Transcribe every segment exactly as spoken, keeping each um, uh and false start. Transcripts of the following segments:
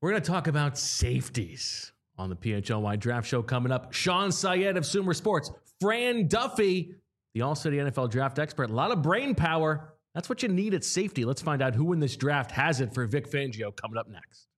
We're going to talk about safeties on the P H L Y Draft Show coming up. Sean Syed of Sumer Sports, Fran Duffy, the All-City N F L draft expert. A lot of brain power. That's what you need at safety. Let's find out who in this draft has it for Vic Fangio coming up next.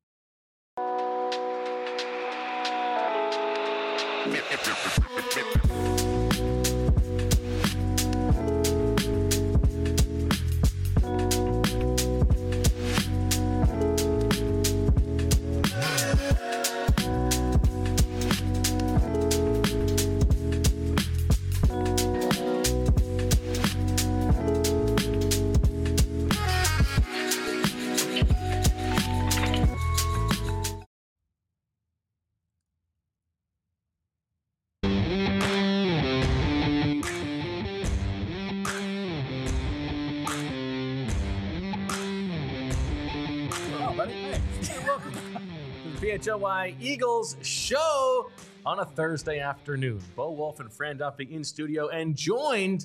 P H L Y Eagles show on a Thursday afternoon. Bo Wolf and Fran Duffy in studio and joined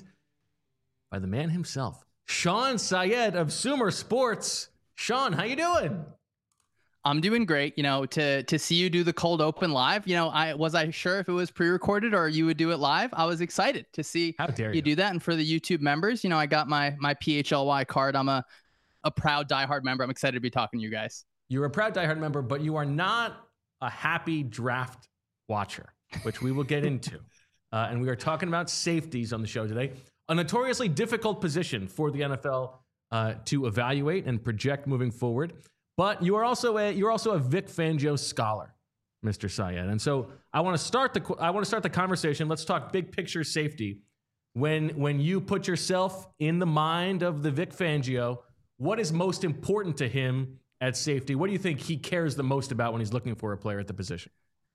by the man himself, Sean Syed of Sumer Sports. Sean, how you doing? I'm doing great. You know, to to see you do the cold open live, you know, I was I sure if it was pre-recorded or you would do it live. I was excited to see how dare you. you do that. And for the YouTube members, you know, I got my my P H L Y card. I'm a a proud diehard member. I'm excited to be talking to you guys. You're a proud diehard member, but you are not a happy draft watcher, which we will get into. Uh, and we are talking about safeties on the show today. A notoriously difficult position for the N F L uh, to evaluate and project moving forward. But you are also a you're also a Vic Fangio scholar, Mister Syed. And so I want to start the I want to start the conversation. Let's talk big picture safety. When when you put yourself in the mind of the Vic Fangio, what is most important to him at safety? What do you think he cares the most about when he's looking for a player at the position?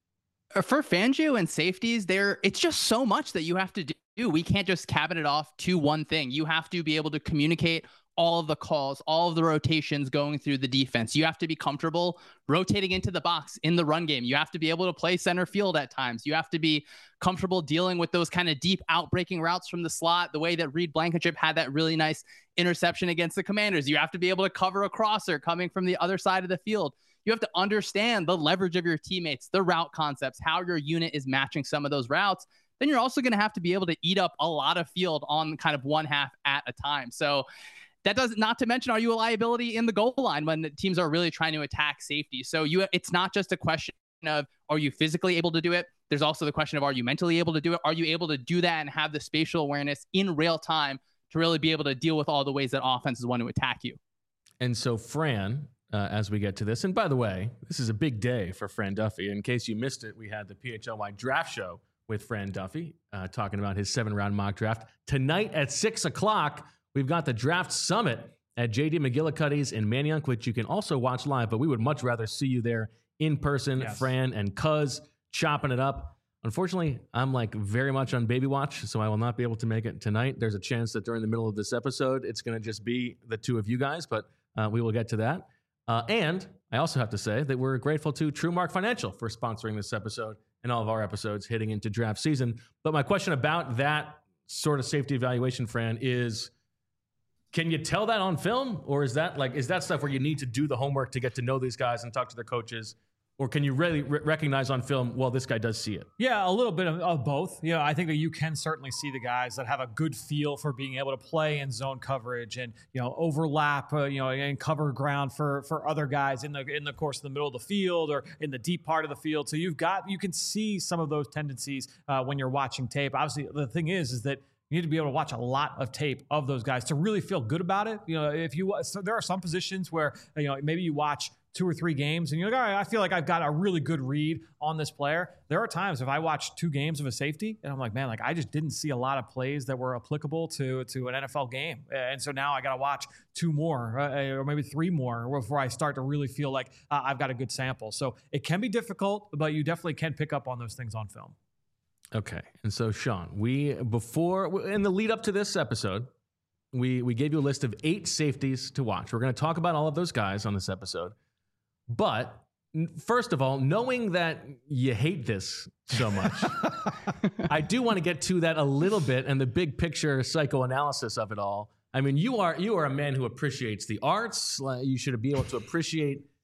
For Fangio and safeties, there it's just so much that you have to do. We can't just cabinet off to one thing. You have to be able to communicate all of the calls, all of the rotations going through the defense. You have to be comfortable rotating into the box in the run game. You have to be able to play center field at times. You have to be comfortable dealing with those kind of deep outbreaking routes from the slot, the way that Reed Blankenship had that really nice interception against the Commanders. You have to be able to cover a crosser coming from the other side of the field. You have to understand the leverage of your teammates, the route concepts, how your unit is matching some of those routes. Then you're also going to have to be able to eat up a lot of field on kind of one half at a time. So that does not to mention, are you a liability in the goal line when the teams are really trying to attack safety? So you, it's not just a question of, are you physically able to do it? There's also the question of, are you mentally able to do it? Are you able to do that and have the spatial awareness in real time to really be able to deal with all the ways that offenses want to attack you? And so Fran, uh, as we get to this, and by the way, this is a big day for Fran Duffy. In case you missed it, we had the P H L Y Draft Show with Fran Duffy uh, talking about his seven-round mock draft. Tonight at six o'clock, we've got the Draft Summit at J D McGillicuddy's in Manayunk, which you can also watch live, but we would much rather see you there in person, yes. Fran and Cuz chopping it up. Unfortunately, I'm like very much on baby watch, so I will not be able to make it tonight. There's a chance that during the middle of this episode, it's going to just be the two of you guys, but uh, we will get to that. Uh, and I also have to say that we're grateful to TrueMark Financial for sponsoring this episode and all of our episodes heading into draft season. But my question about that sort of safety evaluation, Fran, is can you tell that on film, or is that like is that stuff where you need to do the homework to get to know these guys and talk to their coaches? Or can you really re- recognize on film, well, this guy does see it? Yeah, a little bit of, of both. You know, I think that you can certainly see the guys that have a good feel for being able to play in zone coverage and, you know, overlap, uh, you know, and cover ground for for other guys in the in the course of the middle of the field or in the deep part of the field. So you've got you can see some of those tendencies uh, when you're watching tape. Obviously, the thing is, is that you need to be able to watch a lot of tape of those guys to really feel good about it. You know, if you so there are some positions where, you know, maybe you watch two or three games and you're like, all right, I feel like I've got a really good read on this player. There are times if I watch two games of a safety and I'm like, man, like I just didn't see a lot of plays that were applicable to, to an N F L game. And so now I got to watch two more uh, or maybe three more before I start to really feel like uh, I've got a good sample. So it can be difficult, but you definitely can pick up on those things on film. Okay. And so Sean, we, before, in the lead up to this episode, we, we gave you a list of eight safeties to watch. We're going to talk about all of those guys on this episode. But first of all, knowing that you hate this so much, I do want to get to that a little bit and the big picture psychoanalysis of it all. I mean, you are you are a man who appreciates the arts. You should be able to appreciate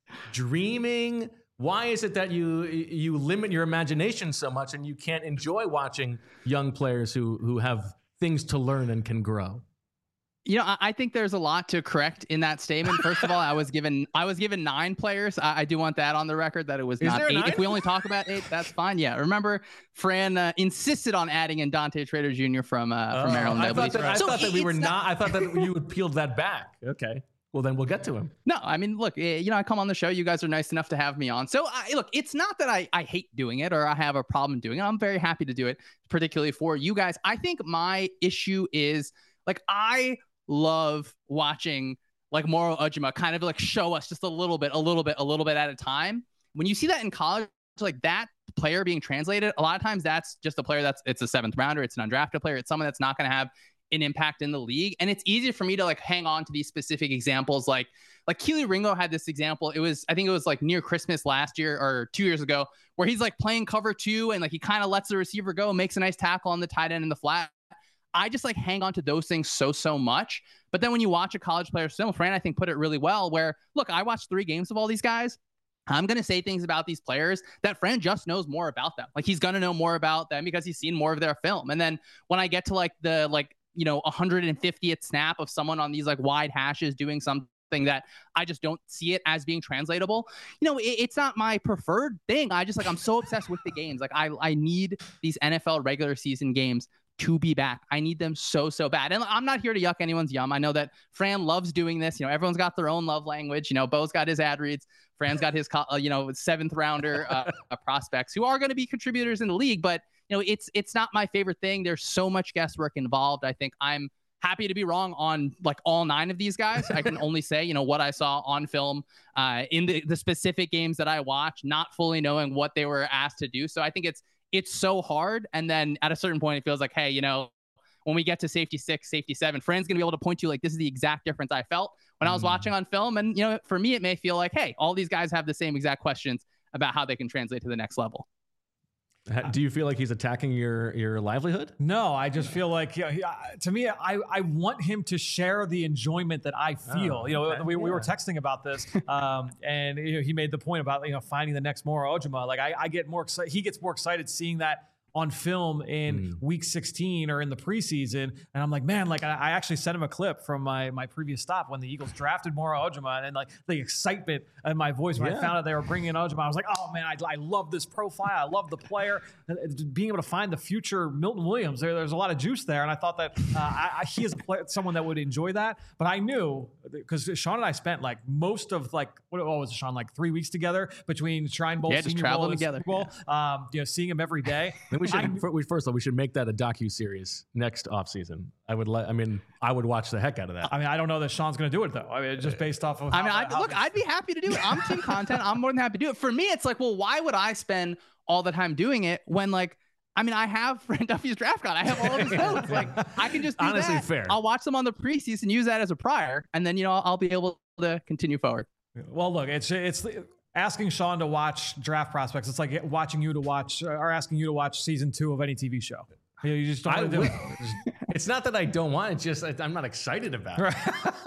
dreaming? Why is it that you you limit your imagination so much and you can't enjoy watching young players who who have things to learn and can grow? You know, I think there's a lot to correct in that statement. First of all, I was given I was given nine players. I, I do want that on the record that it was Is not there eight. nine? If we only talk about eight, that's fine. Yeah, remember, Fran uh, insisted on adding in Dante Trader Junior from uh, from Oh, Maryland. I I thought believe. that, I So thought that we it's were not- not. I thought that you had peeled that back. Okay. Well, then we'll get to him. No, I mean, look, eh, you know, I come on the show. You guys are nice enough to have me on. So, I, look, it's not that I, I hate doing it or I have a problem doing it. I'm very happy to do it, particularly for you guys. I think my issue is, like, I love watching, like, Moro Ujima kind of, like, show us just a little bit, a little bit, a little bit at a time. When you see that in college, like, that player being translated, a lot of times that's just a player that's, it's a seventh rounder. It's an undrafted player. It's someone that's not going to have an impact in the league. And it's easier for me to, like, hang on to these specific examples. Like, like Keely Ringo had this example. It was, I think it was like near Christmas last year or two years ago, where he's like playing cover two and like he kind of lets the receiver go, makes a nice tackle on the tight end in the flat. I just like hang on to those things so, so much. But then when you watch a college player film, Fran, I think, put it really well, where, look, I watched three games of all these guys. I'm going to say things about these players that Fran just knows more about them. Like, he's going to know more about them because he's seen more of their film. And then when I get to like the, like, you know, one hundred fiftieth snap of someone on these like wide hashes doing something that I just don't see it as being translatable, you know, it, it's not my preferred thing. I just like, I'm so obsessed with the games. Like, I, I need these N F L regular season games to be back. I need them so, so bad. And I'm not here to yuck anyone's yum. I know that Fran loves doing this. You know, everyone's got their own love language. You know, Bo's got his ad reads. Fran's got his, uh, you know, seventh rounder uh, prospects who are going to be contributors in the league. But, you know, it's it's not my favorite thing. There's so much guesswork involved. I think I'm happy to be wrong on like all nine of these guys. I can only say, you know, what I saw on film uh, in the, the specific games that I watched, not fully knowing what they were asked to do. So I think it's it's so hard. And then at a certain point, it feels like, hey, you know, when we get to safety six, safety seven, Fran's going to be able to point to, like, this is the exact difference I felt when I was mm. watching on film. And, you know, for me, it may feel like, hey, all these guys have the same exact questions about how they can translate to the next level. Do you feel like he's attacking your your livelihood? No, I just feel like, you know, he, uh, to me, I, I want him to share the enjoyment that I feel. Oh, you know, okay. we, we yeah. were texting about this, um, and you know, he made the point about, you know, finding the next Moro Ujima. Like, I, I get more excited. He gets more excited seeing that on film in mm. week sixteen or in the preseason. And I'm like, man, like I, I actually sent him a clip from my my previous stop when the Eagles drafted Moro Ujima, and like the excitement in my voice when yeah. I found out they were bringing in Ujima, I was like, oh man, I, I love this profile. I love the player. Being able to find the future Milton Williams, there, there's a lot of juice there. And I thought that uh, I, I, he is a player, someone that would enjoy that. But I knew, because Sean and I spent like most of like, what, what was it, Sean, like three weeks together between Shrine Bowl, yeah, just Senior traveling Bowl, and together. Super Bowl, yeah. um, you know, seeing him every day. We should, for, we, first of all, we should make that a docu-series next offseason. I would like, I mean, I would watch the heck out of that. I mean, I don't know that Sean's going to do it, though. I mean, just based off of. I mean, how, I'd, how look, I'd be happy to do it. I'm team content. I'm more than happy to do it. For me, it's like, well, why would I spend all the time doing it when, like, I mean, I have Fran Duffy's draft guide. I have all of his notes. Like, I can just do honestly that. fair. I'll watch them on the preseason, use that as a prior, and then, you know, I'll be able to continue forward. Well, look, it's it's. Asking Sean to watch draft prospects, it's like watching you to watch or asking you to watch season two of any T V show. You, know, you just don't want to do it. It's not that I don't want it; it's just I'm not excited about it.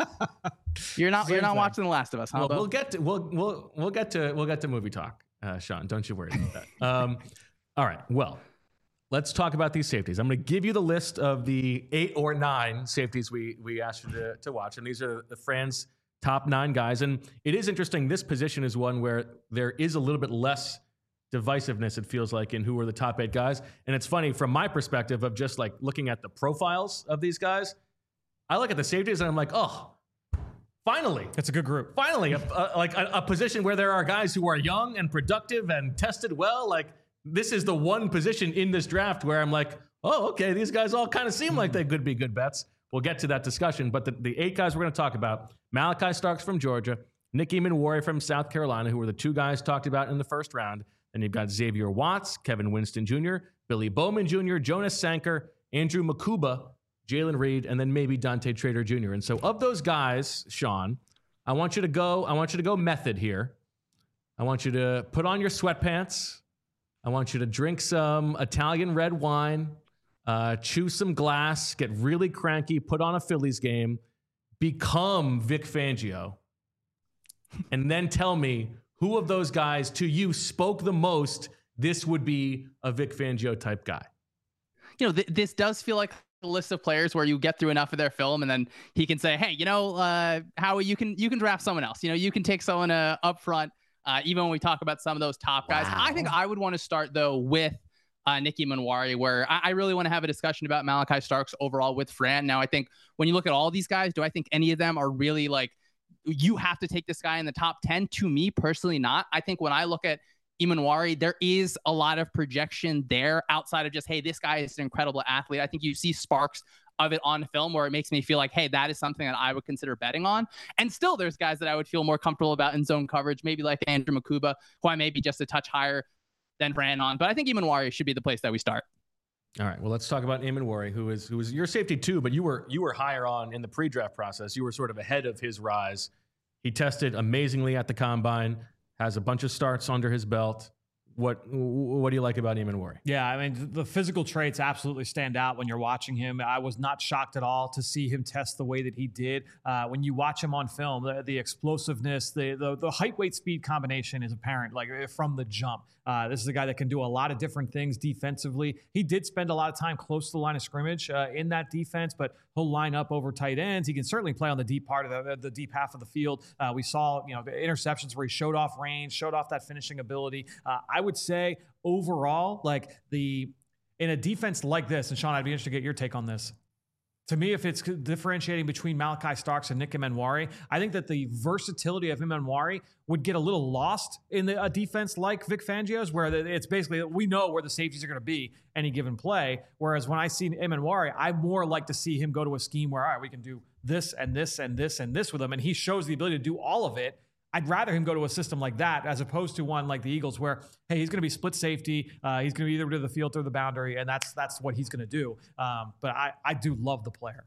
You're not. Same you're not thing. watching The Last of Us, huh? Well, we'll get to we'll we'll we'll get to we'll get to movie talk, uh, Sean. Don't you worry about that. Um, all right. Well, let's talk about these safeties. I'm going to give you the list of the eight or nine safeties we we asked you to, to watch, and these are the Fran's top nine guys. And it is interesting. This position is one where there is a little bit less divisiveness, it feels like, in who are the top eight guys. And it's funny from my perspective of just like looking at the profiles of these guys. I look at the safeties and I'm like, oh, finally. It's a good group. Finally, a, a, like a, a position where there are guys who are young and productive and tested well. Like, this is the one position in this draft where I'm like, oh, okay, these guys all kind of seem like they could be good bets. We'll get to that discussion. But the, the eight guys we're going to talk about, Malachi Starks from Georgia, Nick Eamon-Warrior from South Carolina, who were the two guys talked about in the first round. Then you've got Xavier Watts, Kevin Winston Junior, Billy Bowman Junior, Jonas Sanker, Andrew Makuba, Jalen Reed, and then maybe Dante Trader Junior And so of those guys, Sean, I want you to go, I want you to go method here. I want you to put on your sweatpants. I want you to drink some Italian red wine, uh, chew some glass, get really cranky, put on a Phillies game, become Vic Fangio, and then tell me who of those guys to you spoke the most. This would be a Vic Fangio type guy. You know, th- this does feel like a list of players where you get through enough of their film and then he can say, hey, you know, uh, Howie, you can you can draft someone else. You know, you can take someone uh, up front, uh, even when we talk about some of those top guys. Wow. I think I would want to start, though, with uh, Nicky Manwari, where I, I really want to have a discussion about Malachi Starks overall with Fran. Now, I think when you look at all these guys, do I think any of them are really like, you have to take this guy in the top ten? To me, personally, not. I think when I look at Manwari, there is a lot of projection there outside of just, hey, this guy is an incredible athlete. I think you see sparks of it on film where it makes me feel like, hey, that is something that I would consider betting on. And still, there's guys that I would feel more comfortable about in zone coverage, maybe like Andrew Makuba, who I may be just a touch higher than Fran on. But I think Manwari should be the place that we start. All right. Well, let's talk about Manwari, who is who is your safety too, but you were you were higher on in the pre-draft process. You were sort of ahead of his rise. He tested amazingly at the combine, has a bunch of starts under his belt. What what do you like about Manwari? Yeah, I mean, the physical traits absolutely stand out when you're watching him. I was not shocked at all to see him test the way that he did. Uh, when you watch him on film, the, the explosiveness, the, the the height, weight, speed combination is apparent, like from the jump. Uh, this is a guy that can do a lot of different things defensively. He did spend a lot of time close to the line of scrimmage uh, in that defense, but he'll line up over tight ends. He can certainly play on the deep part of the, the deep half of the field. Uh, we saw, you know, the interceptions where he showed off range, showed off that finishing ability. Uh, I would say overall, like the in a defense like this, and Sean, I'd be interested to get your take on this. To me, if it's differentiating between Malachi Starks and Nicky Manwari, I think that the versatility of Manwari would get a little lost in the, a defense like Vic Fangio's, where it's basically, we know where the safeties are going to be any given play. Whereas when I see Manwari, I more like to see him go to a scheme where, all right, we can do this and this and this and this with him. And he shows the ability to do all of it. I'd rather him go to a system like that as opposed to one like the Eagles where, hey, he's going to be split safety. Uh, he's going to be either to the field or the boundary, and that's that's what he's going to do. Um, but I, I do love the player.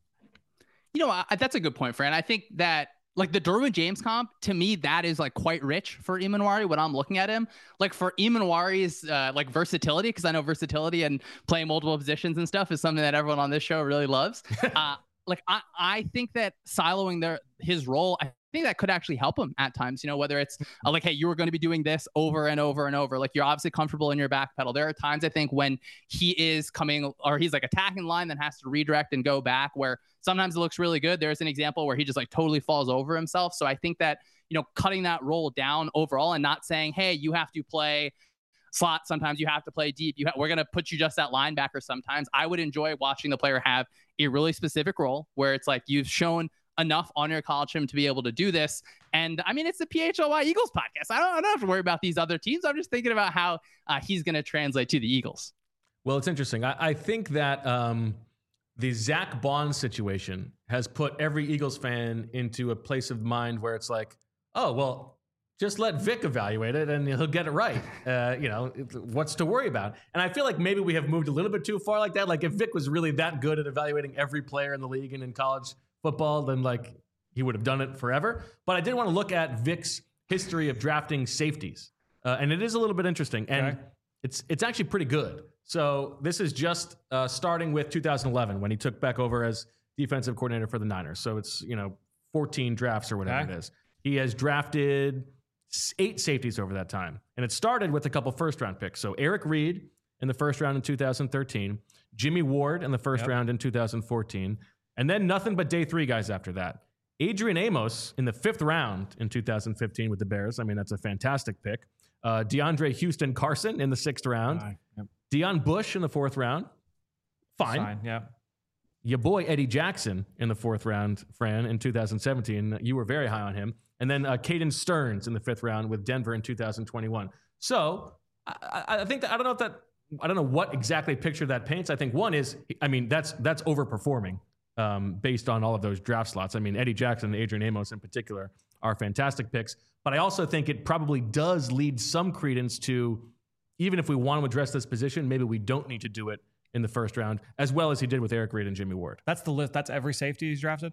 You know, I, that's a good point, Fran. I think that, like, the Derwin James comp, to me, that is, like, quite rich for Manwari when I'm looking at him. Like, for Manwari's, uh, like, versatility, because I know versatility and playing multiple positions and stuff is something that everyone on this show really loves. uh, like, I, I think that siloing their his role, I I think that could actually help him at times, you know, whether it's uh, like, hey, you were going to be doing this over and over and over. Like, you're obviously comfortable in your back pedal. There are times, I think, when he is coming or he's like attacking line, then has to redirect and go back, where sometimes it looks really good. There's an example where he just like totally falls over himself. So I think that, you know, cutting that role down overall and not saying, hey, you have to play slot. Sometimes you have to play deep. You ha- we're going to put you just at linebacker sometimes. I would enjoy watching the player have a really specific role where it's like, you've shown enough on your college film to be able to do this. And I mean, it's the P H L Y Eagles podcast. I don't, I don't have to worry about these other teams. I'm just thinking about how uh, he's going to translate to the Eagles. Well, it's interesting. I, I think that um, the Zach Bond situation has put every Eagles fan into a place of mind where it's like, oh, well, just let Vic evaluate it and he'll get it right. Uh, you know, what's to worry about? And I feel like maybe we have moved a little bit too far like that. Like, if Vic was really that good at evaluating every player in the league and in college football, then like he would have done it forever. But I did want to look at Vic's history of drafting safeties, uh, and it is a little bit interesting, and okay. it's it's actually pretty good. So this is just uh, starting with two thousand eleven when he took back over as defensive coordinator for the Niners. So it's, you know, fourteen drafts or whatever okay. it is. He has drafted eight safeties over that time, and it started with a couple first round picks. So Eric Reed in the first round in two thousand thirteen, Jimmy Ward in the first yep. round in two thousand fourteen. And then nothing but day three guys after that. Adrian Amos in the fifth round in two thousand fifteen with the Bears. I mean, that's a fantastic pick. Uh, DeAndre Houston Carson in the sixth round. Fine. Yep. Deion Bush in the fourth round. Fine. Fine. Yeah. Your boy Eddie Jackson in the fourth round, Fran, in two thousand seventeen. You were very high on him. And then uh, Caden Stearns in the fifth round with Denver in two thousand twenty-one. So I, I think that, I don't know if that, I don't know what exactly picture that paints. I think one is, I mean, that's that's overperforming. Um, based on all of those draft slots. I mean, Eddie Jackson and Adrian Amos in particular are fantastic picks. But I also think it probably does lead some credence to, even if we want to address this position, maybe we don't need to do it in the first round, as well as he did with Eric Reed and Jimmy Ward. That's the list. That's every safety he's drafted?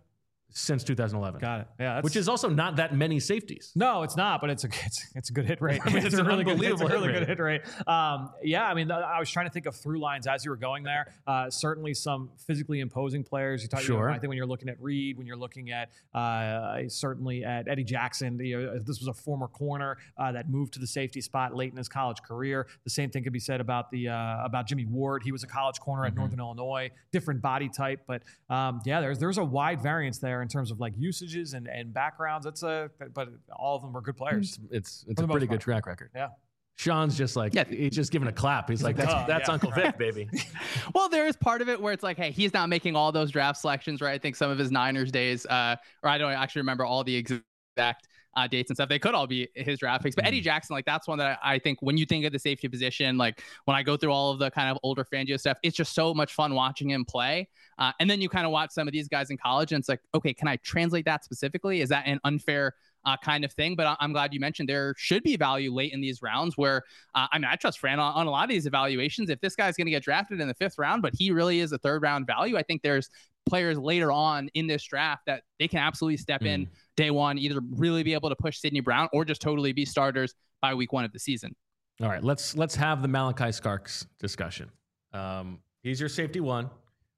since two thousand eleven. Got it. Yeah, that's, which is also not that many safeties. No, it's not, but it's a it's, it's a good hit rate. I mean, it's, it's a an really good, it's a really hit good hit rate. Um, yeah, I mean, I was trying to think of through lines as you were going there. Uh, certainly, some physically imposing players. You talk, sure. You know, I think when you're looking at Reed, when you're looking at uh, certainly at Eddie Jackson, you know, this was a former corner uh, that moved to the safety spot late in his college career. The same thing could be said about the uh, about Jimmy Ward. He was a college corner mm-hmm. at Northern Illinois, different body type, but um, yeah, there's there's a wide variance there in terms of like usages and, and backgrounds. It's a but all of them were good players. It's it's, it's a pretty good track record. Yeah. Sean's just like, yeah. he's just giving a clap. He's, he's like, that's, uh, that's yeah. Uncle Vic, baby. Well, there is part of it where it's like, hey, he's not making all those draft selections, right? I think some of his Niners days, uh, or I don't actually remember all the exact uh, dates and stuff. They could all be his draft picks. But mm. Eddie Jackson, like that's one that I, I think when you think of the safety position, like when I go through all of the kind of older Fangio stuff, it's just so much fun watching him play. Uh, and then you kind of watch some of these guys in college and it's like, okay, can I translate that specifically? Is that an unfair Uh, kind of thing? But I'm glad you mentioned there should be value late in these rounds where, uh, I mean, I trust Fran on, on a lot of these evaluations. If this guy's going to get drafted in the fifth round, but he really is a third round value, I think there's players later on in this draft that they can absolutely step mm. in day one, either really be able to push Sidney Brown or just totally be starters by week one of the season. All right, let's let's have the Malachi Starks discussion. Um, he's your safety one.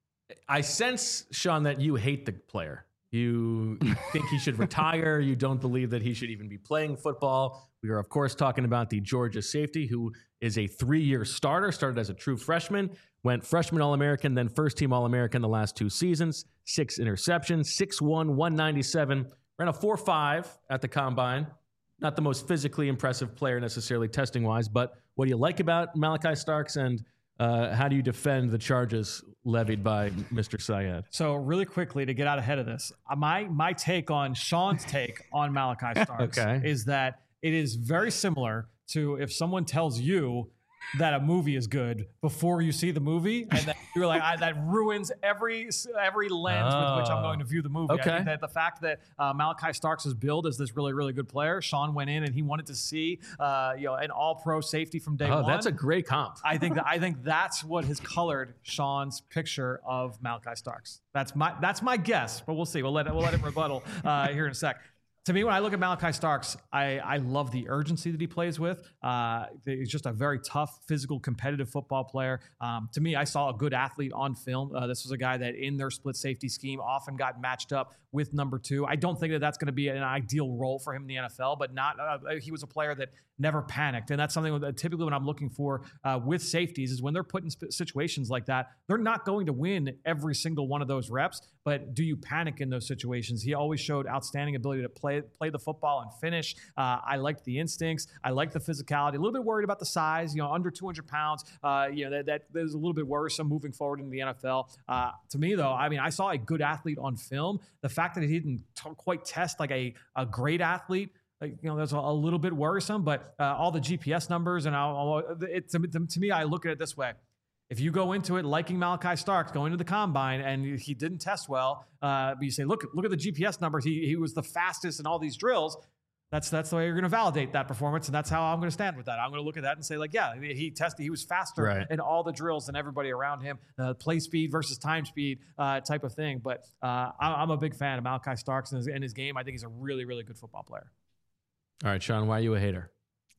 I sense, Sean, that you hate the player. You think he should retire. You don't believe that he should even be playing football. We are, of course, talking about the Georgia safety, who is a three-year starter, started as a true freshman, went freshman All-American, then first-team All-American the last two seasons, six interceptions, six one, one ninety-seven, ran a four five at the Combine. Not the most physically impressive player necessarily testing-wise, but what do you like about Malachi Starks, and Uh, how do you defend the charges levied by Mister Syed? So really quickly to get out ahead of this, uh, my my take on Sean's take on Malachi Starks okay. is that it is very similar to if someone tells you that a movie is good before you see the movie, and that you're like, I, that ruins every every lens oh, with which I'm going to view the movie. Okay. I think that the fact that uh, Malachi Starks is billed as this really, really good player, Sean went in and he wanted to see, uh, you know, an all-pro safety from day oh, one. That's a great comp. I think that I think that's what has colored Sean's picture of Malachi Starks. That's my that's my guess, but we'll see. We'll let it, we'll let him rebuttal uh, here in a sec. To me, when I look at Malachi Starks, I, I love the urgency that he plays with. Uh, he's just a very tough, physical, competitive football player. Um, to me, I saw a good athlete on film. Uh, this was a guy that in their split safety scheme often got matched up with number two. I don't think that that's going to be an ideal role for him in the N F L, but not. Uh, he was a player that never panicked. And that's something that typically when I'm looking for uh, with safeties is when they're put in sp- situations like that, they're not going to win every single one of those reps, but do you panic in those situations? He always showed outstanding ability to play play the football and finish. Uh, I liked the instincts. I liked the physicality. A little bit worried about the size, you know, under two hundred pounds. Uh, you know, that, that, that is a little bit worrisome moving forward in the N F L. Uh, to me, though, I mean, I saw a good athlete on film. The fact that he didn't t- quite test like a, a great athlete, like, you know, that's a, a little bit worrisome, but uh, all the G P S numbers and all, it, to, to me, I look at it this way. If you go into it liking Malachi Starks, going to the Combine, and he didn't test well, uh, but you say, look, look at the G P S numbers. He he was the fastest in all these drills. That's that's the way you're going to validate that performance, and that's how I'm going to stand with that. I'm going to look at that and say, like, yeah, he tested. He was faster right. in all the drills than everybody around him. Uh, play speed versus time speed uh, type of thing. But uh, I'm a big fan of Malachi Starks and his, and his game. I think he's a really, really good football player. All right, Sean, why are you a hater?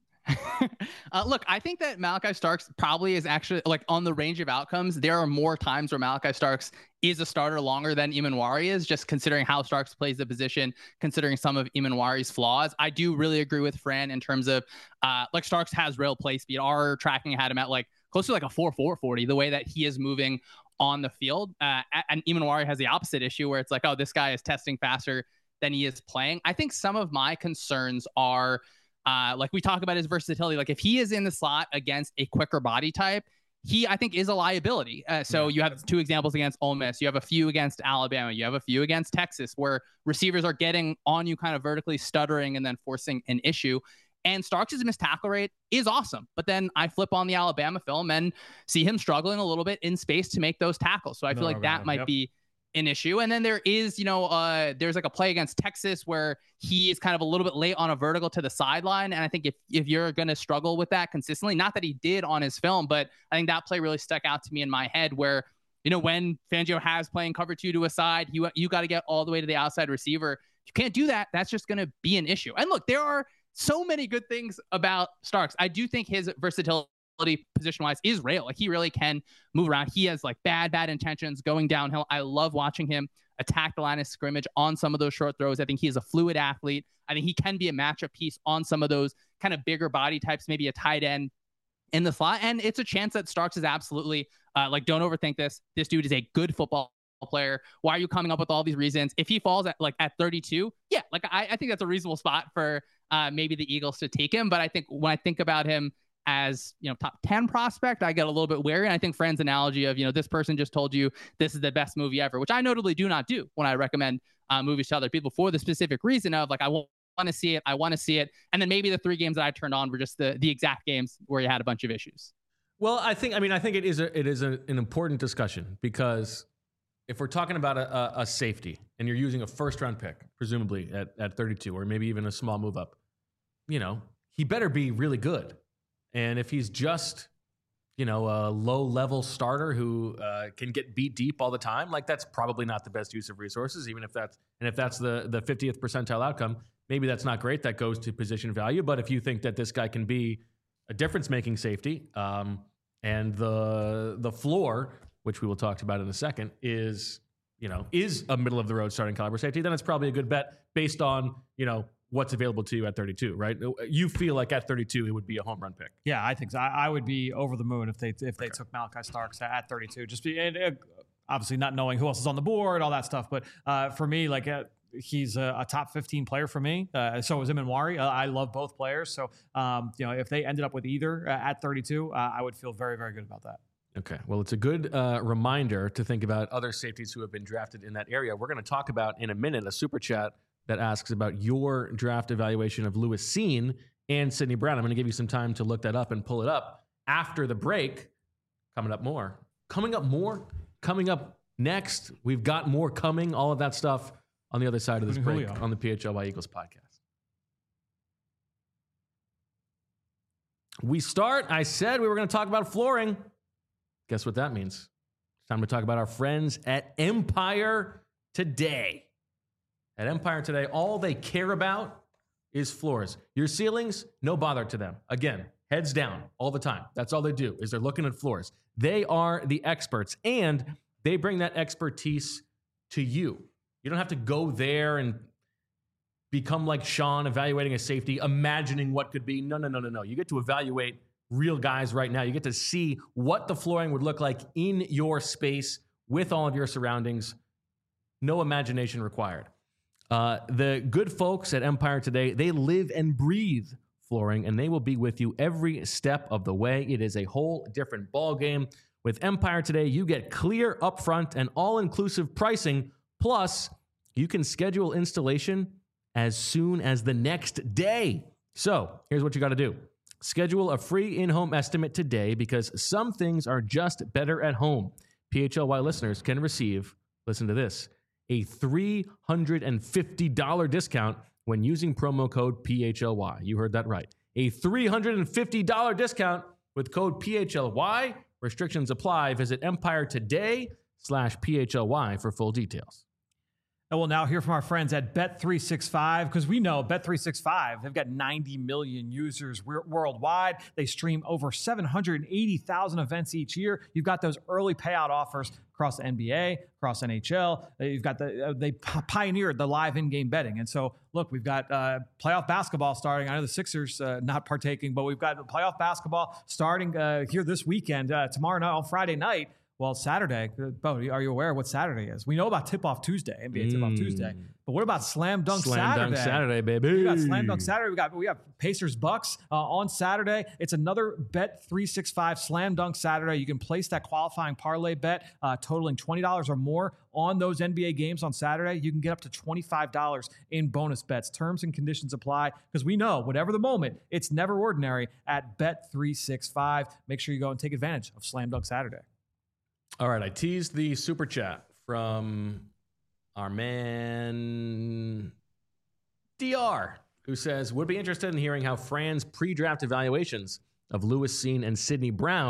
uh, look, I think that Malachi Starks probably is actually like on the range of outcomes. There are more times where Malachi Starks is a starter longer than Emanwari is, just considering how Starks plays the position, considering some of Emanwari's flaws. I do really agree with Fran in terms of uh, like Starks has real play speed. Our tracking had him at like close to like a four four forty, the way that he is moving on the field. Uh, and Emanwari has the opposite issue where it's like, oh, this guy is testing faster than he is playing. I think some of my concerns are Uh, like we talk about his versatility. Like if he is in the slot against a quicker body type, he, I think, is a liability. Uh, so yeah. You have two examples against Ole Miss. You have a few against Alabama. You have a few against Texas where receivers are getting on you kind of vertically stuttering and then forcing an issue. And Starks' missed tackle rate is awesome. But then I flip on the Alabama film and see him struggling a little bit in space to make those tackles. So I feel no, like that might yep. be an issue. And then there is, you know, uh, there's like a play against Texas where he is kind of a little bit late on a vertical to the sideline. And I think if, if you're going to struggle with that consistently, not that he did on his film, but I think that play really stuck out to me in my head where You know, when Fangio has playing cover two to a side, you, you got to get all the way to the outside receiver. You can't do that. That's just going to be an issue. And look, there are so many good things about Starks. I do think his versatility position-wise is real. Like, he really can move around. He has like bad, bad intentions going downhill. I love watching him attack the line of scrimmage on some of those short throws. I think he is a fluid athlete. I think he can be a matchup piece on some of those kind of bigger body types, maybe a tight end in the slot. And it's a chance that Starks is absolutely uh, like, don't overthink this. This dude is a good football player. Why are you coming up with all these reasons? If he falls at like at thirty-two, yeah, like I, I think that's a reasonable spot for uh, maybe the Eagles to take him. But I think when I think about him as, you know, top ten prospect, I get a little bit wary. And I think Fran's analogy of, you know, this person just told you this is the best movie ever, which I notably do not do when I recommend uh, movies to other people, for the specific reason of like, I want to see it. I want to see it. And then maybe the three games that I turned on were just the the exact games where you had a bunch of issues. Well, I think, I mean, I think it is a, it is a, an important discussion, because if we're talking about a, a, a safety and you're using a first round pick, presumably at, at thirty-two, or maybe even a small move up, you know, he better be really good. And if he's just, you know, a low level starter who uh, can get beat deep all the time, like, that's probably not the best use of resources, even if that's, and if that's the, the fiftieth percentile outcome, maybe that's not great. That goes to position value. But if you think that this guy can be a difference making safety, um, and the, the floor, which we will talk about in a second, is, you know, is a middle of the road starting caliber safety, then it's probably a good bet based on, you know, what's available to you at thirty-two, right? You feel like at thirty-two, it would be a home run pick. Yeah, I think so. I, I would be over the moon if they if they okay. took Malachi Starks at thirty-two. Just be, and, uh, obviously not knowing who else is on the board, all that stuff. But uh, for me, like, uh, he's a, a top fifteen player for me. Uh, so is Emanwari. Uh, I love both players. So, um, you know, if they ended up with either uh, at thirty-two, uh, I would feel very, very good about that. Okay. Well, it's a good uh, reminder to think about other safeties who have been drafted in that area. We're going to talk about in a minute a super chat that asks about your draft evaluation of Lewis Cine and Sidney Brown. I'm going to give you some time to look that up and pull it up after the break. Coming up more. Coming up more. Coming up next. We've got more coming. All of that stuff on the other side of this break Julio. On the P H L Y Eagles podcast. We start. I said we were going to talk about flooring. Guess what that means? It's time to talk about our friends at Empire Today. At Empire Today, all they care about is floors. Your ceilings, no bother to them. Again, heads down all the time. That's all they do, is they're looking at floors. They are the experts, and they bring that expertise to you. You don't have to go there and become like Sean, evaluating a safety, imagining what could be. No, no, no, no, no. You get to evaluate real guys right now. You get to see what the flooring would look like in your space with all of your surroundings. No imagination required. Uh, the good folks at Empire Today, they live and breathe flooring, and they will be with you every step of the way. It is a whole different ballgame. With Empire Today, you get clear, upfront, and all-inclusive pricing. Plus, you can schedule installation as soon as the next day. So here's what you got to do. Schedule a free in-home estimate today, because some things are just better at home. P H L Y listeners can receive, listen to this, a three hundred fifty dollars discount when using promo code P H L Y. You heard that right. A three hundred fifty dollars discount with code P H L Y. Restrictions apply. Visit Empire Today slash P H L Y for full details. And we'll now hear from our friends at Bet three sixty-five, because we know Bet three sixty-five, they've got ninety million users worldwide. They stream over seven hundred eighty thousand events each year. You've got those early payout offers across the N B A, across N H L. You've got the, uh, they pioneered the live in-game betting. And so, look, we've got uh, playoff basketball starting. I know the Sixers uh, not partaking, but we've got playoff basketball starting uh, here this weekend, uh, tomorrow night, on Friday night. Well, Saturday, Bo, are you aware of what Saturday is? We know about Tip-Off Tuesday, N B A mm. Tip-Off Tuesday. But what about Slam Dunk Slam Saturday? Slam Dunk Saturday, baby. We got Slam Dunk Saturday. We got we got Pacers Bucks uh, on Saturday. It's another Bet three sixty-five Slam Dunk Saturday. You can place that qualifying parlay bet uh, totaling twenty dollars or more on those N B A games on Saturday. You can get up to twenty-five dollars in bonus bets. Terms and conditions apply, because we know, whatever the moment, it's never ordinary at Bet three sixty-five. Make sure you go and take advantage of Slam Dunk Saturday. All right, I teased the super chat from our man D R, who says, would be interested in hearing how Fran's pre-draft evaluations of Lewis Cine and Sidney Brown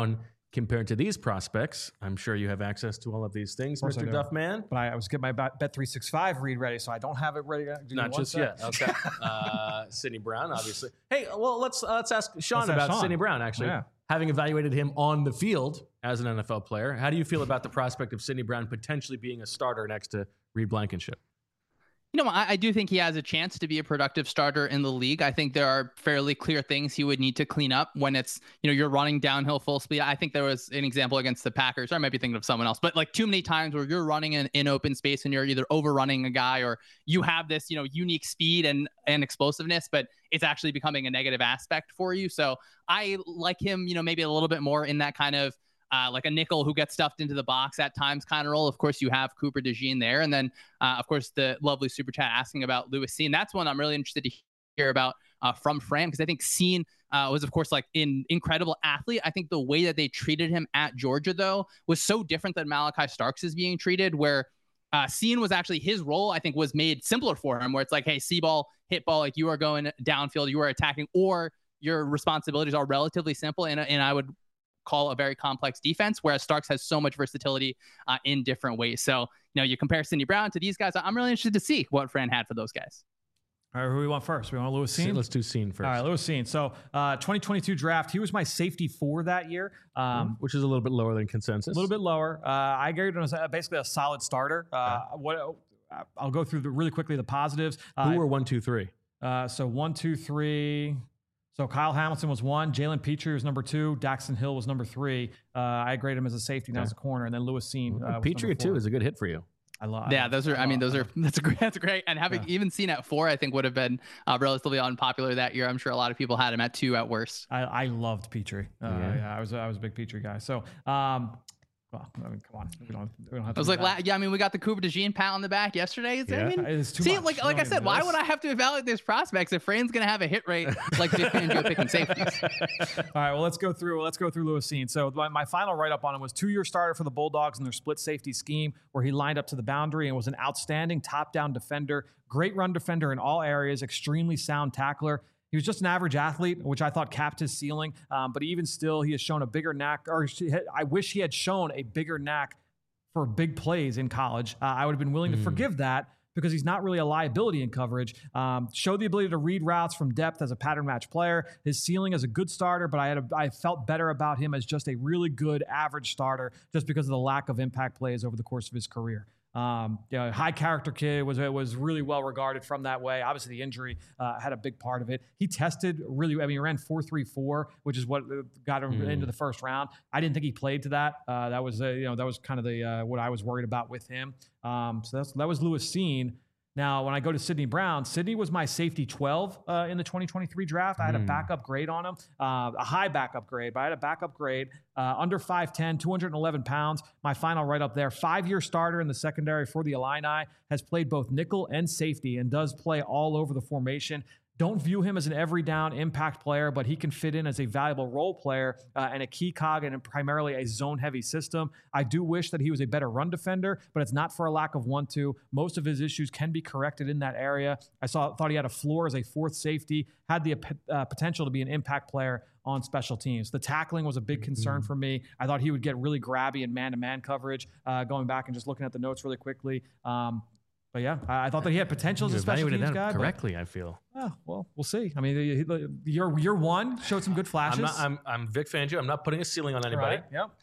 compared to these prospects, I'm sure you have access to all of these things, course I Mister do. Duffman. But I, I was getting my Bet three sixty-five read ready, so I don't have it ready. Give me Not one just sec. yet. Okay. uh, Sidney Brown, obviously. Hey, well, let's uh, let's ask Sean Let's ask about Sean. Sidney Brown. Actually, Yeah. having evaluated him on the field as an N F L player, how do you feel about the prospect of Sidney Brown potentially being a starter next to Reed Blankenship? You know, I, I do think he has a chance to be a productive starter in the league. I think there are fairly clear things he would need to clean up when it's, you know, you're running downhill full speed. I think there was an example against the Packers, or I might be thinking of someone else, but like too many times where you're running in, in open space and you're either overrunning a guy or you have this, you know, unique speed and, and explosiveness, but it's actually becoming a negative aspect for you. So I like him, you know, maybe a little bit more in that kind of Uh, like a nickel who gets stuffed into the box at times kind of role. Of course, you have Cooper DeJean there. And then, uh, of course, the lovely super chat asking about Lewis Cine. That's one I'm really interested to hear about uh, from Fran, because I think Cine uh, was, of course, like an incredible athlete. I think the way that they treated him at Georgia, though, was so different than Malachi Starks is being treated, where uh, Cine was actually his role, I think, was made simpler for him, where it's like, hey, see ball, hit ball, like you are going downfield, you are attacking, or your responsibilities are relatively simple. And, and I would call a very complex defense, whereas Starks has so much versatility uh, in different ways. So, you know, you compare Sidney Brown to these guys. I'm really interested to see what Fran had for those guys. All right, who do we want first? We want Lewis Cine? Let's do Cine first. All right, Lewis Cine. So uh, twenty twenty-two draft, he was my safety four that year. Um, Which is a little bit lower than consensus. A little bit lower. Uh, I graded him as a, basically a solid starter. Uh, Yeah. What I'll go through the, really quickly the positives. Uh, Who were one, two, three? Uh, so one, two, three. So Kyle Hamilton was one. Jalen Petrie was number two. Daxton Hill was number three. Uh, I graded him as a safety, not Okay. as a corner. And then Lewis Cine. Uh, was Petrie number at two four. is a good hit for you. I love. Yeah, those are. I mean, those are. That's a great. That's great. And having Yeah. even Cine at four, I think would have been uh, relatively unpopular that year. I'm sure a lot of people had him at two at worst. I, I loved Petrie. Uh, Yeah. yeah. I was I was a big Petrie guy. So, um, well, I mean, come on, we don't we don't have to. I was do like, that. la- yeah, I mean, we got the Cooper DeJean pat on the back yesterday. Is there- I Yeah. mean, It's too see, much. like We like don't I said, need why this. would I have to evaluate these prospects if Fran's going to have a hit rate like Vic Fangio picking safeties? All right, well, let's go through. Let's go through Lewis Cine. So my, my final write-up on him was two-year starter for the Bulldogs in their split safety scheme, where he lined up to the boundary and was an outstanding top-down defender, great run defender in all areas, extremely sound tackler. He was just an average athlete, which I thought capped his ceiling. Um, but even still, he has shown a bigger knack, or I wish he had shown a bigger knack for big plays in college. Uh, I would have been willing to Mm. forgive that, because he's not really a liability in coverage. Um, showed the ability to read routes from depth as a pattern match player. His ceiling as a good starter, but I had a, I felt better about him as just a really good average starter, just because of the lack of impact plays over the course of his career. Um, you know, high character kid, was was really well regarded from that way. Obviously, the injury uh, had a big part of it. He tested really. I mean, he ran four three four, which is what got him Mm. into the first round. I didn't think he played to that. Uh, that was uh, you know that was kind of the uh, what I was worried about with him. Um, so that's that was Lewis Cine. Now, when I go to Sidney Brown, Sidney was my safety twelve uh, in the twenty twenty-three draft. I had a Mm. backup grade on him, uh, a high backup grade, but I had a backup grade, uh, under five ten, two hundred eleven pounds. My final write up there, five-year starter in the secondary for the Illini, has played both nickel and safety and does play all over the formation. Don't view him as an every down impact player, but he can fit in as a valuable role player uh, and a key cog in primarily a zone heavy system. I do wish that he was a better run defender, but it's not for a lack of one two. Most of his issues can be corrected in that area. I saw thought he had a floor as a fourth safety, had the uh, potential to be an impact player on special teams. The tackling was a big concern for me. I thought he would get really grabby in man-to-man coverage, uh, going back and just looking at the notes really quickly. Um, But yeah, I, I thought that he had potential as You a special evaluated teams that guy. but- correctly, I feel. Oh, well, we'll see. I mean, he- he- your your one showed some good flashes. I'm, not, I'm, I'm Vic Fangio. I'm not putting a ceiling on anybody. Right, Yep.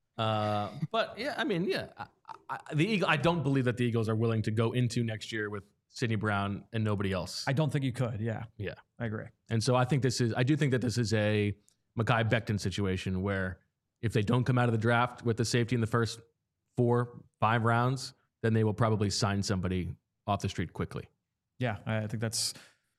Uh, but yeah, I mean, yeah, I, I, the Eagle. I don't believe that the Eagles are willing to go into next year with Sidney Brown and nobody else. I don't think you could. Yeah. Yeah. I agree. And so I think this is. I do think that this is a Mekhi Becton situation where if they don't come out of the draft with the safety in the first four, five rounds, then they will probably sign somebody off the street quickly. Yeah, I think that's.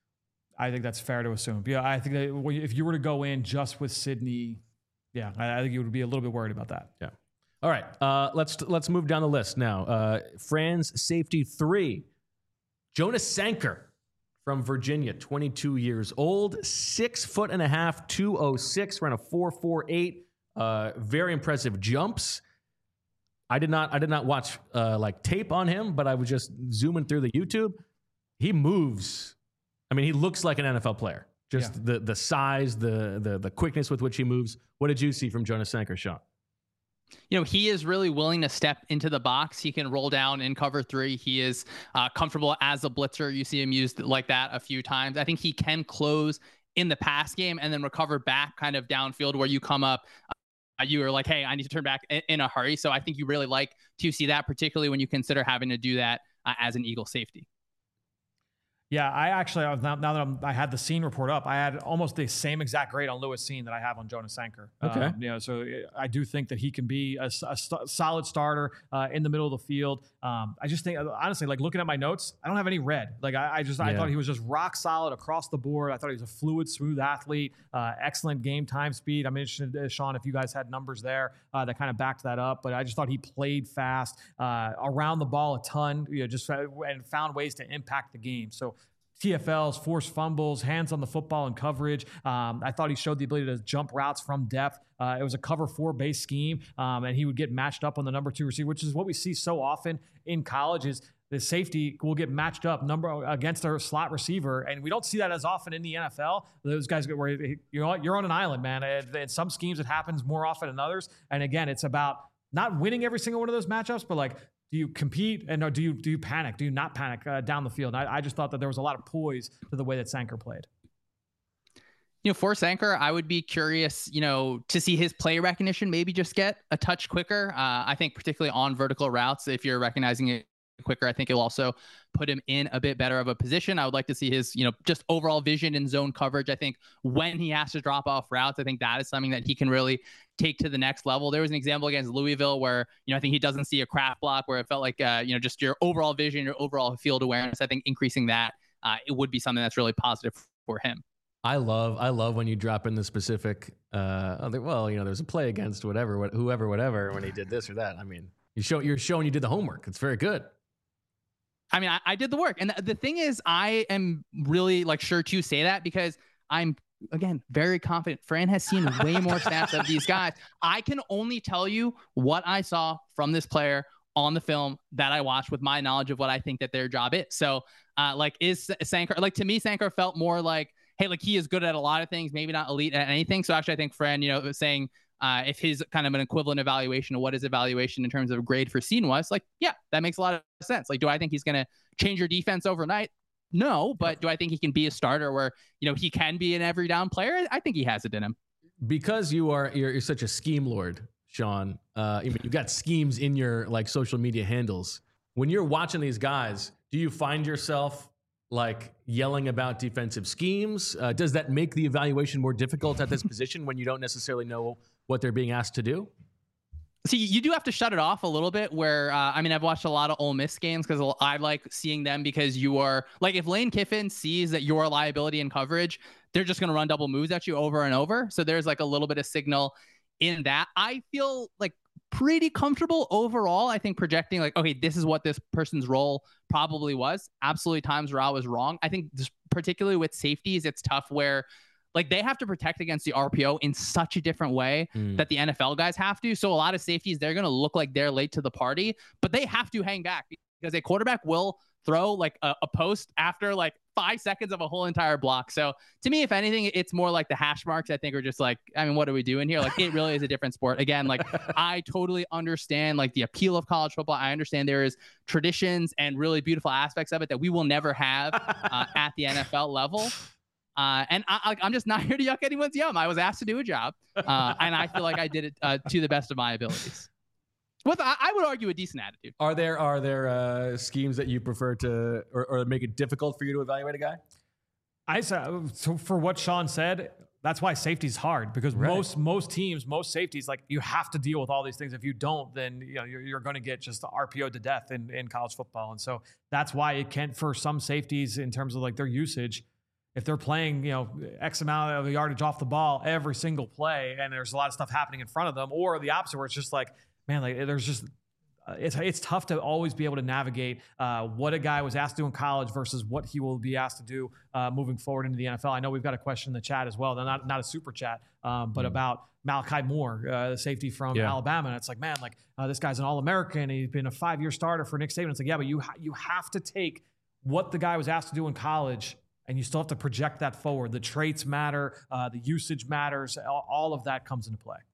I think that's fair to assume. Yeah, I think that if you were to go in just with Sidney, yeah, I, I think you would be a little bit worried about that. Yeah. All right. Uh, let's let's move down the list now. Uh, Fran's safety three, Jonas Sanker from Virginia, twenty-two years old, six foot and a half, two oh six, ran a four four eight. Uh, very impressive jumps. I did not I did not watch uh, like tape on him, but I was just zooming through the YouTube. He moves. I mean, he looks like an N F L player. Just Yeah. the the size, the the the quickness with which he moves. What did you see from Jonas Sanker, Sean? You know, he is really willing to step into the box. He can roll down in cover three. He is uh, comfortable as a blitzer. You see him used like that a few times. I think he can close in the pass game and then recover back kind of downfield where you come up. Uh, you are like, hey, I need to turn back in, in a hurry. So I think you really like to see that, particularly when you consider having to do that uh, as an Eagle safety. Yeah, I actually, now, now that I'm, I had the scene report up, I had almost the same exact grade on Lewis Cine that I have on Jonas Sanker. Okay. Um, you know, so I do think that he can be a, a st- solid starter uh, in the middle of the field. Um, I just think, honestly, like looking at my notes, I don't have any red. Like I, I just, yeah. I thought he was just rock solid across the board. I thought he was a fluid, smooth athlete, uh, excellent game time speed. I'm interested, uh, Sean, if you guys had numbers there uh, that kind of backed that up, but I just thought he played fast, uh, around the ball a ton, you know, just uh, and found ways to impact the game. So T F Ls, forced fumbles, hands on the football and coverage. Um, I thought he showed the ability to jump routes from depth. Uh, it was a cover four base scheme, um, and he would get matched up on the number two receiver, which is what we see so often in college is the safety will get matched up number against a slot receiver. And we don't see that as often in the N F L. Those guys get where you're on, you're on an island, man. And in some schemes, it happens more often than others. And again, it's about not winning every single one of those matchups, but like, do you compete and or do you do you panic? Do you not panic uh, down the field? I, I just thought that there was a lot of poise to the way that Sanker played. You know, for Sanker, I would be curious, you know, to see his play recognition maybe just get a touch quicker. Uh, I think particularly on vertical routes, if you're recognizing it quicker, I think it'll also put him in a bit better of a position. I would like to see his, you know, just overall vision in zone coverage. I think when he has to drop off routes, I think that is something that he can really take to the next level. There was an example against Louisville where, you know, I think he doesn't see a craft block where it felt like, uh, you know, just your overall vision, your overall field awareness. I think increasing that, uh, it would be something that's really positive for him. I love, I love when you drop in the specific, uh, well, you know, there's a play against whatever, whoever, whatever, when he did this or that. I mean, you show, you're showing you did the homework. It's very good. I mean, I, I did the work. And the, the thing is, I am really like sure to say that because I'm, again, very confident. Fran has seen way more snaps of these guys. I can only tell you what I saw from this player on the film that I watched with my knowledge of what I think that their job is. So uh, like is Sanker, like to me, Sanker felt more like, hey, like he is good at a lot of things, maybe not elite at anything. So actually I think Fran, you know, was saying, Uh, if his kind of an equivalent evaluation of what his evaluation in terms of grade for Cine was, like, yeah, that makes a lot of sense. Like, do I think he's going to change your defense overnight? No, but do I think he can be a starter where, you know, he can be an every down player? I think he has it in him. Because you are, you're, you're such a scheme lord, Sean. Uh, you you've got schemes in your like social media handles. When you're watching these guys, do you find yourself like yelling about defensive schemes? Uh, does that make the evaluation more difficult at this position when you don't necessarily know what they're being asked to do? See, you do have to shut it off a little bit where, uh, I mean, I've watched a lot of Ole Miss games because I like seeing them because you are, like, if Lane Kiffin sees that you're a liability in coverage, they're just going to run double moves at you over and over. So there's like a little bit of signal in that. I feel like pretty comfortable overall. I think projecting like, okay, this is what this person's role probably was. Absolutely times where I was wrong. I think just particularly with safeties, it's tough where like they have to protect against the R P O in such a different way mm. that the N F L guys have to. So a lot of safeties, they're going to look like they're late to the party, but they have to hang back because a quarterback will throw like a, a post after like five seconds of a whole entire block. So to me, if anything, it's more like the hash marks, I think, are just like, I mean, what are we doing here? Like it really is a different sport. Again, like I totally understand like the appeal of college football. I understand there is traditions and really beautiful aspects of it that we will never have uh, at the N F L level. Uh, and I, I'm just not here to yuck anyone's yum. I was asked to do a job, uh, and I feel like I did it uh, to the best of my abilities. With, I, I would argue, a decent attitude. Are there are there uh, schemes that you prefer to, or, or make it difficult for you to evaluate a guy? I so for what Sean said, that's why safety is hard because right. most most teams, most safeties, like you have to deal with all these things. If you don't, then you know you're, you're going to get just R P O to death in, in college football, and so that's why it can for some safeties in terms of like their usage. If they're playing, you know, X amount of yardage off the ball every single play, and there's a lot of stuff happening in front of them, or the opposite, where it's just like, man, like there's just, uh, it's it's tough to always be able to navigate uh, what a guy was asked to do in college versus what he will be asked to do uh, moving forward into the N F L. I know we've got a question in the chat as well. They're not not a super chat, um, but mm. about Malachi Moore, uh, the safety from yeah. Alabama. And it's like, man, like uh, this guy's an All-American. He's been a five-year starter for Nick Saban. It's like, yeah, but you ha- you have to take what the guy was asked to do in college. And you still have to project that forward. The traits matter. Uh, the usage matters. All, all of that comes into play.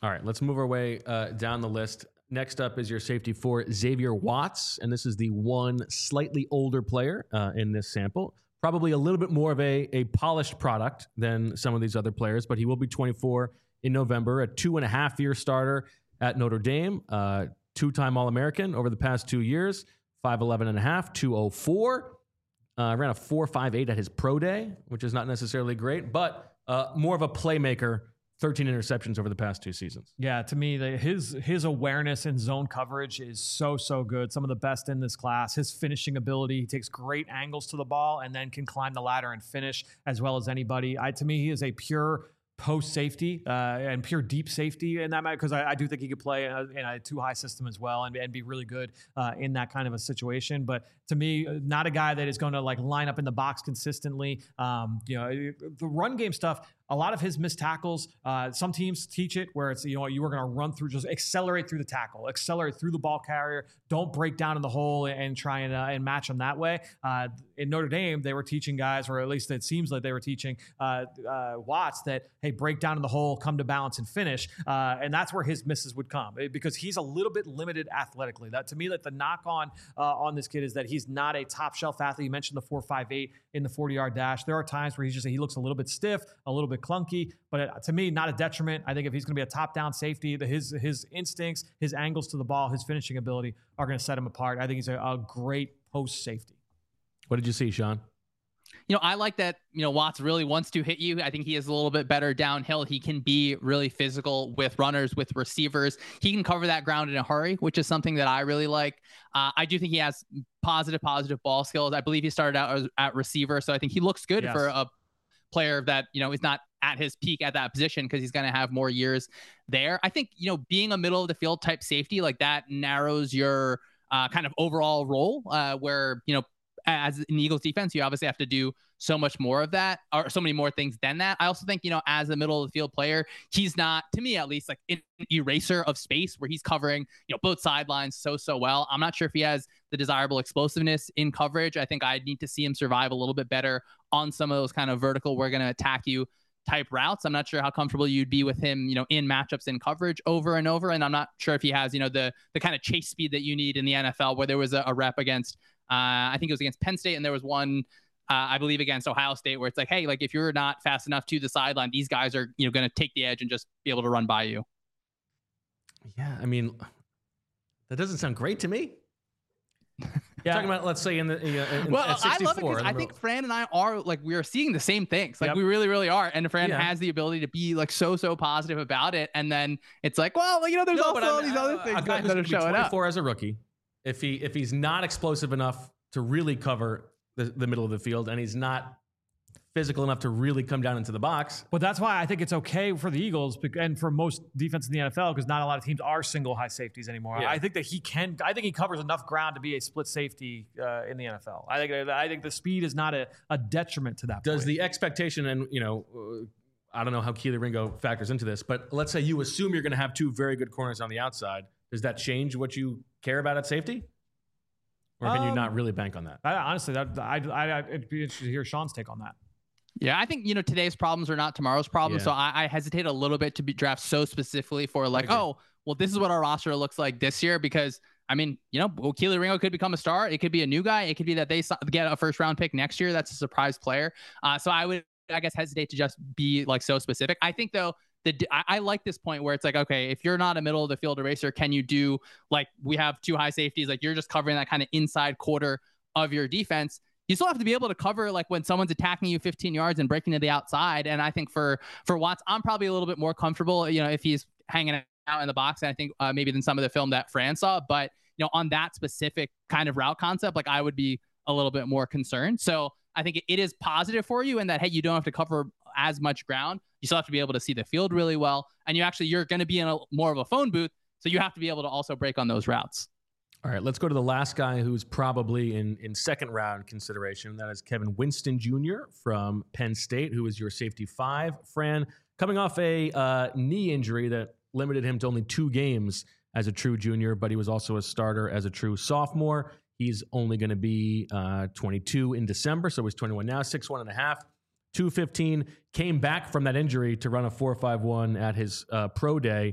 All right, let's move our way uh, down the list. Next up is your safety for Xavier Watts, and this is the one slightly older player uh, in this sample. Probably a little bit more of a, a polished product than some of these other players, but he will be twenty-four in November, a two and a half year starter at Notre Dame, uh, two-time All-American over the past two years, five eleven and a half, two oh four. Uh, ran a four five eight at his pro day, which is not necessarily great, but uh, more of a playmaker. thirteen interceptions over the past two seasons. Yeah, to me, the, his his awareness in zone coverage is so, so good. Some of the best in this class. His finishing ability, he takes great angles to the ball and then can climb the ladder and finish as well as anybody. I, to me, he is a pure post safety uh, and pure deep safety in that matter, because I, I do think he could play in a, in a two high system as well and, and be really good uh, in that kind of a situation. But to me, not a guy that is going to like line up in the box consistently. Um, you know, the run game stuff. A lot of his missed tackles, uh, some teams teach it where it's, you know, you are going to run through, just accelerate through the tackle, accelerate through the ball carrier. Don't break down in the hole and, and try and, uh, and match them that way. Uh, in Notre Dame, they were teaching guys, or at least it seems like they were teaching uh, uh, Watts that, hey, break down in the hole, come to balance and finish. Uh, and that's where his misses would come because he's a little bit limited athletically. That to me, like the knock on uh, on this kid is that he's not a top shelf athlete. You mentioned the four five eight in the forty yard dash. There are times where he's just, he looks a little bit stiff, a little bit clunky, but to me, not a detriment. I think if he's going to be a top-down safety, the, his his instincts, his angles to the ball, his finishing ability are going to set him apart. I think he's a, a great post safety. What did you see, Sean? You know, I like that, you know, Watts really wants to hit you. I think he is a little bit better downhill. He can be really physical with runners, with receivers. He can cover that ground in a hurry, which is something that I really like. Uh, I do think he has positive, positive ball skills. I believe he started out as, at receiver, so I think he looks good yes. for a player that, you know, is not at his peak at that position because he's going to have more years there. I think, you know, being a middle of the field type safety like that narrows your uh, kind of overall role uh, where, you know, as in the Eagles defense, you obviously have to do so much more of that, or so many more things than that. I also think, you know, as a middle of the field player, he's not, to me at least, like an eraser of space where he's covering, you know, both sidelines so, so well. I'm not sure if he has the desirable explosiveness in coverage. I think I need to see him survive a little bit better on some of those kind of vertical, we're going to attack you type routes. I'm not sure how comfortable you'd be with him, you know, in matchups in coverage over and over. And I'm not sure if he has, you know, the the kind of chase speed that you need in the N F L, where there was a, a rep against, uh, I think it was against Penn State, and there was one, uh, I believe, against Ohio State, where it's like, hey, like if you're not fast enough to the sideline, these guys are, you know, going to take the edge and just be able to run by you. Yeah, I mean, that doesn't sound great to me. Yeah. Talking about, let's say, in the uh, in, well, at sixty-four, I love it because I think Fran and I are like, we are seeing the same things. Like yep. we really, really are. And Fran yeah. has the ability to be like so, so positive about it. And then it's like, well, you know, there's no, also all these other things that are showing up. twenty-four as a rookie, if he if he's not explosive enough to really cover the, the middle of the field, and he's not physical enough to really come down into the box. But that's why I think it's okay for the Eagles and for most defense in the N F L, because not a lot of teams are single high safeties anymore. Yeah. I think that he can, I think he covers enough ground to be a split safety uh, in the N F L. I think I think the speed is not a, a detriment to that Does point. The expectation, and you know, uh, I don't know how Keely Ringo factors into this, but let's say you assume you're going to have two very good corners on the outside. Does that change what you care about at safety? Or can um, you not really bank on that? I, honestly, that I, I, I'd be interested to hear Sean's take on that. Yeah, I think, you know, today's problems are not tomorrow's problems. Yeah. So I, I hesitate a little bit to be draft so specifically for like, oh, well, this is what our roster looks like this year. Because, I mean, you know, well, Keely Ringo could become a star. It could be a new guy. It could be that they get a first round pick next year. That's a surprise player. Uh, so I would, I guess, hesitate to just be like so specific. I think, though, the I, I like this point where it's like, okay, if you're not a middle of the field eraser, can you do like we have two high safeties? Like you're just covering that kind of inside quarter of your defense. You still have to be able to cover like when someone's attacking you fifteen yards and breaking to the outside. And I think for for Watts, I'm probably a little bit more comfortable, you know, if he's hanging out in the box, and I think uh, maybe than some of the film that Fran saw. But, you know, on that specific kind of route concept, like I would be a little bit more concerned. So I think it, it is positive for you in that, hey, you don't have to cover as much ground. You still have to be able to see the field really well. And you actually, you're going to be in a more of a phone booth. So you have to be able to also break on those routes. All right, let's go to the last guy who's probably in, in second round consideration. That is Kevin Winston Junior from Penn State, who is your safety five. Fran, coming off a uh, knee injury that limited him to only two games as a true junior, but he was also a starter as a true sophomore. He's only going to be uh, twenty-two in December, so he's twenty-one now, six one and a half, two fifteen. Came back from that injury to run a four five one at his uh, pro day.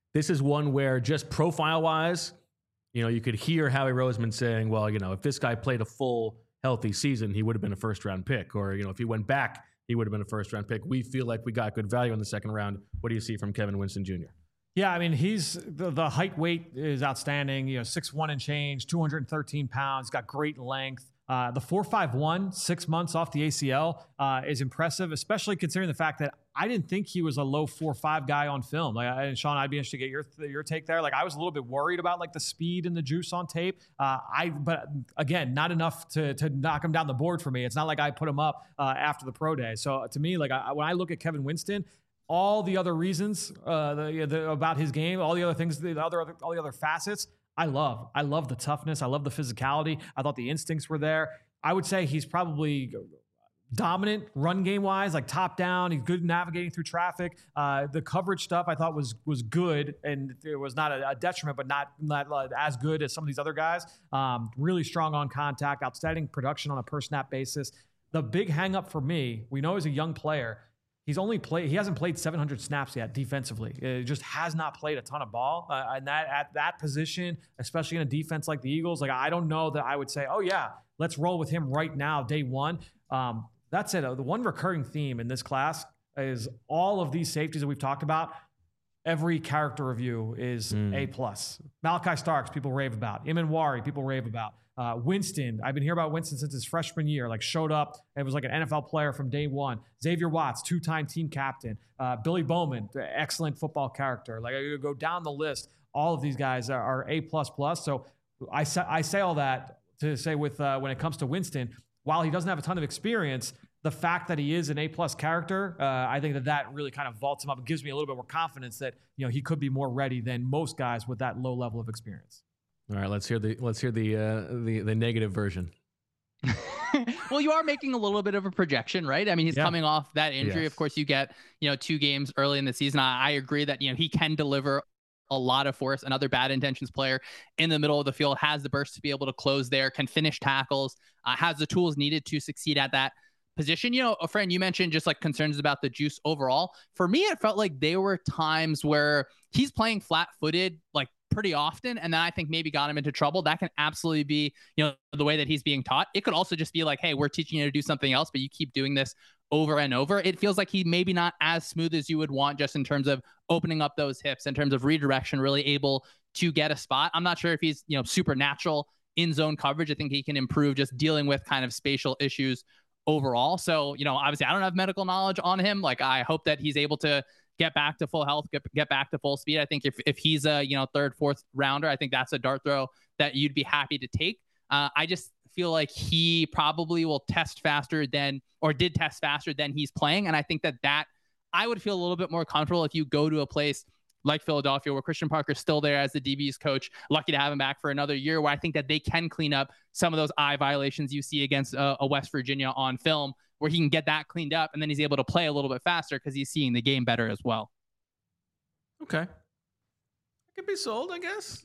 this is one where just profile-wise, you know, you could hear Howie Roseman saying, well, you know, if this guy played a full healthy season, he would have been a first-round pick. Or, you know, if he went back, he would have been a first-round pick. We feel like we got good value in the second round. What do you see from Kevin Winston Junior? Yeah, I mean, he's the, the height weight is outstanding. You know, six one and change, two hundred thirteen pounds, got great length. Uh, the four five one, six months off the A C L uh, is impressive, especially considering the fact that I didn't think he was a low four five guy on film. Like, and Sean, I'd be interested to get your your take there. Like, I was a little bit worried about like the speed and the juice on tape. Uh, I, but again, not enough to to knock him down the board for me. It's not like I put him up uh, after the pro day. So to me, like I, when I look at Kevin Winston, all the other reasons uh, the, the, about his game, all the other things, the other, other all the other facets, I love. I love the toughness. I love the physicality. I thought the instincts were there. I would say he's probably dominant run game wise, like top down. He's good navigating through traffic. Uh, the coverage stuff I thought was was good, and it was not a, a detriment, but not not uh, as good as some of these other guys. Um, really strong on contact, outstanding production on a per snap basis. The big hang up for me, we know he's a young player. He's only played. He hasn't played seven hundred snaps yet defensively. It just has not played a ton of ball, uh, and that at that position, especially in a defense like the Eagles, like I don't know that I would say, oh yeah, let's roll with him right now, day one. Um, that's it. The one recurring theme in this class is all of these safeties that we've talked about. Every character review is mm. A plus. Malachi Starks, people rave about. Imanwari, people rave about. Uh, Winston, I've been hearing about Winston since his freshman year, like showed up and was like an N F L player from day one. Xavier Watts, two-time team captain. Uh, Billy Bowman, excellent football character. Like I could go down the list. All of these guys are, are A plus plus. So I say, I say all that to say with uh, when it comes to Winston, while he doesn't have a ton of experience, the fact that he is an A plus character, uh, I think that that really kind of vaults him up. It gives me a little bit more confidence that, you know, he could be more ready than most guys with that low level of experience. All right, let's hear the let's hear the uh, the the negative version. Well, you are making a little bit of a projection, right? I mean, he's yeah. coming off that injury. Yes. Of course, you get, you know, two games early in the season. I, I agree that, you know, he can deliver a lot of force. Another bad intentions player in the middle of the field, has the burst to be able to close there, can finish tackles, uh, has the tools needed to succeed at that position. You know, a friend, you mentioned just like concerns about the juice overall. For me, it felt like there were times where he's playing flat-footed, like pretty often, and then I think maybe got him into trouble. That can absolutely be, you know, the way that he's being taught. It could also just be like, hey, we're teaching you to do something else, but you keep doing this over and over. It feels like he maybe not as smooth as you would want, just in terms of opening up those hips, in terms of redirection, really able to get a spot. I'm not sure if he's, you know, supernatural in zone coverage. I think he can improve just dealing with kind of spatial issues overall. So, you know, obviously I don't have medical knowledge on him. Like, I hope that he's able to get back to full health, get, get back to full speed. I think if, if he's a, you know, third, fourth rounder, I think that's a dart throw that you'd be happy to take. Uh, I just feel like he probably will test faster than, or did test faster than he's playing. And I think that that I would feel a little bit more comfortable if you go to a place like Philadelphia, where Christian Parker's still there as the D B's coach, lucky to have him back for another year, where I think that they can clean up some of those eye violations you see against uh, a West Virginia on film, where he can get that cleaned up, and then he's able to play a little bit faster because he's seeing the game better as well. Okay. I could be sold, I guess.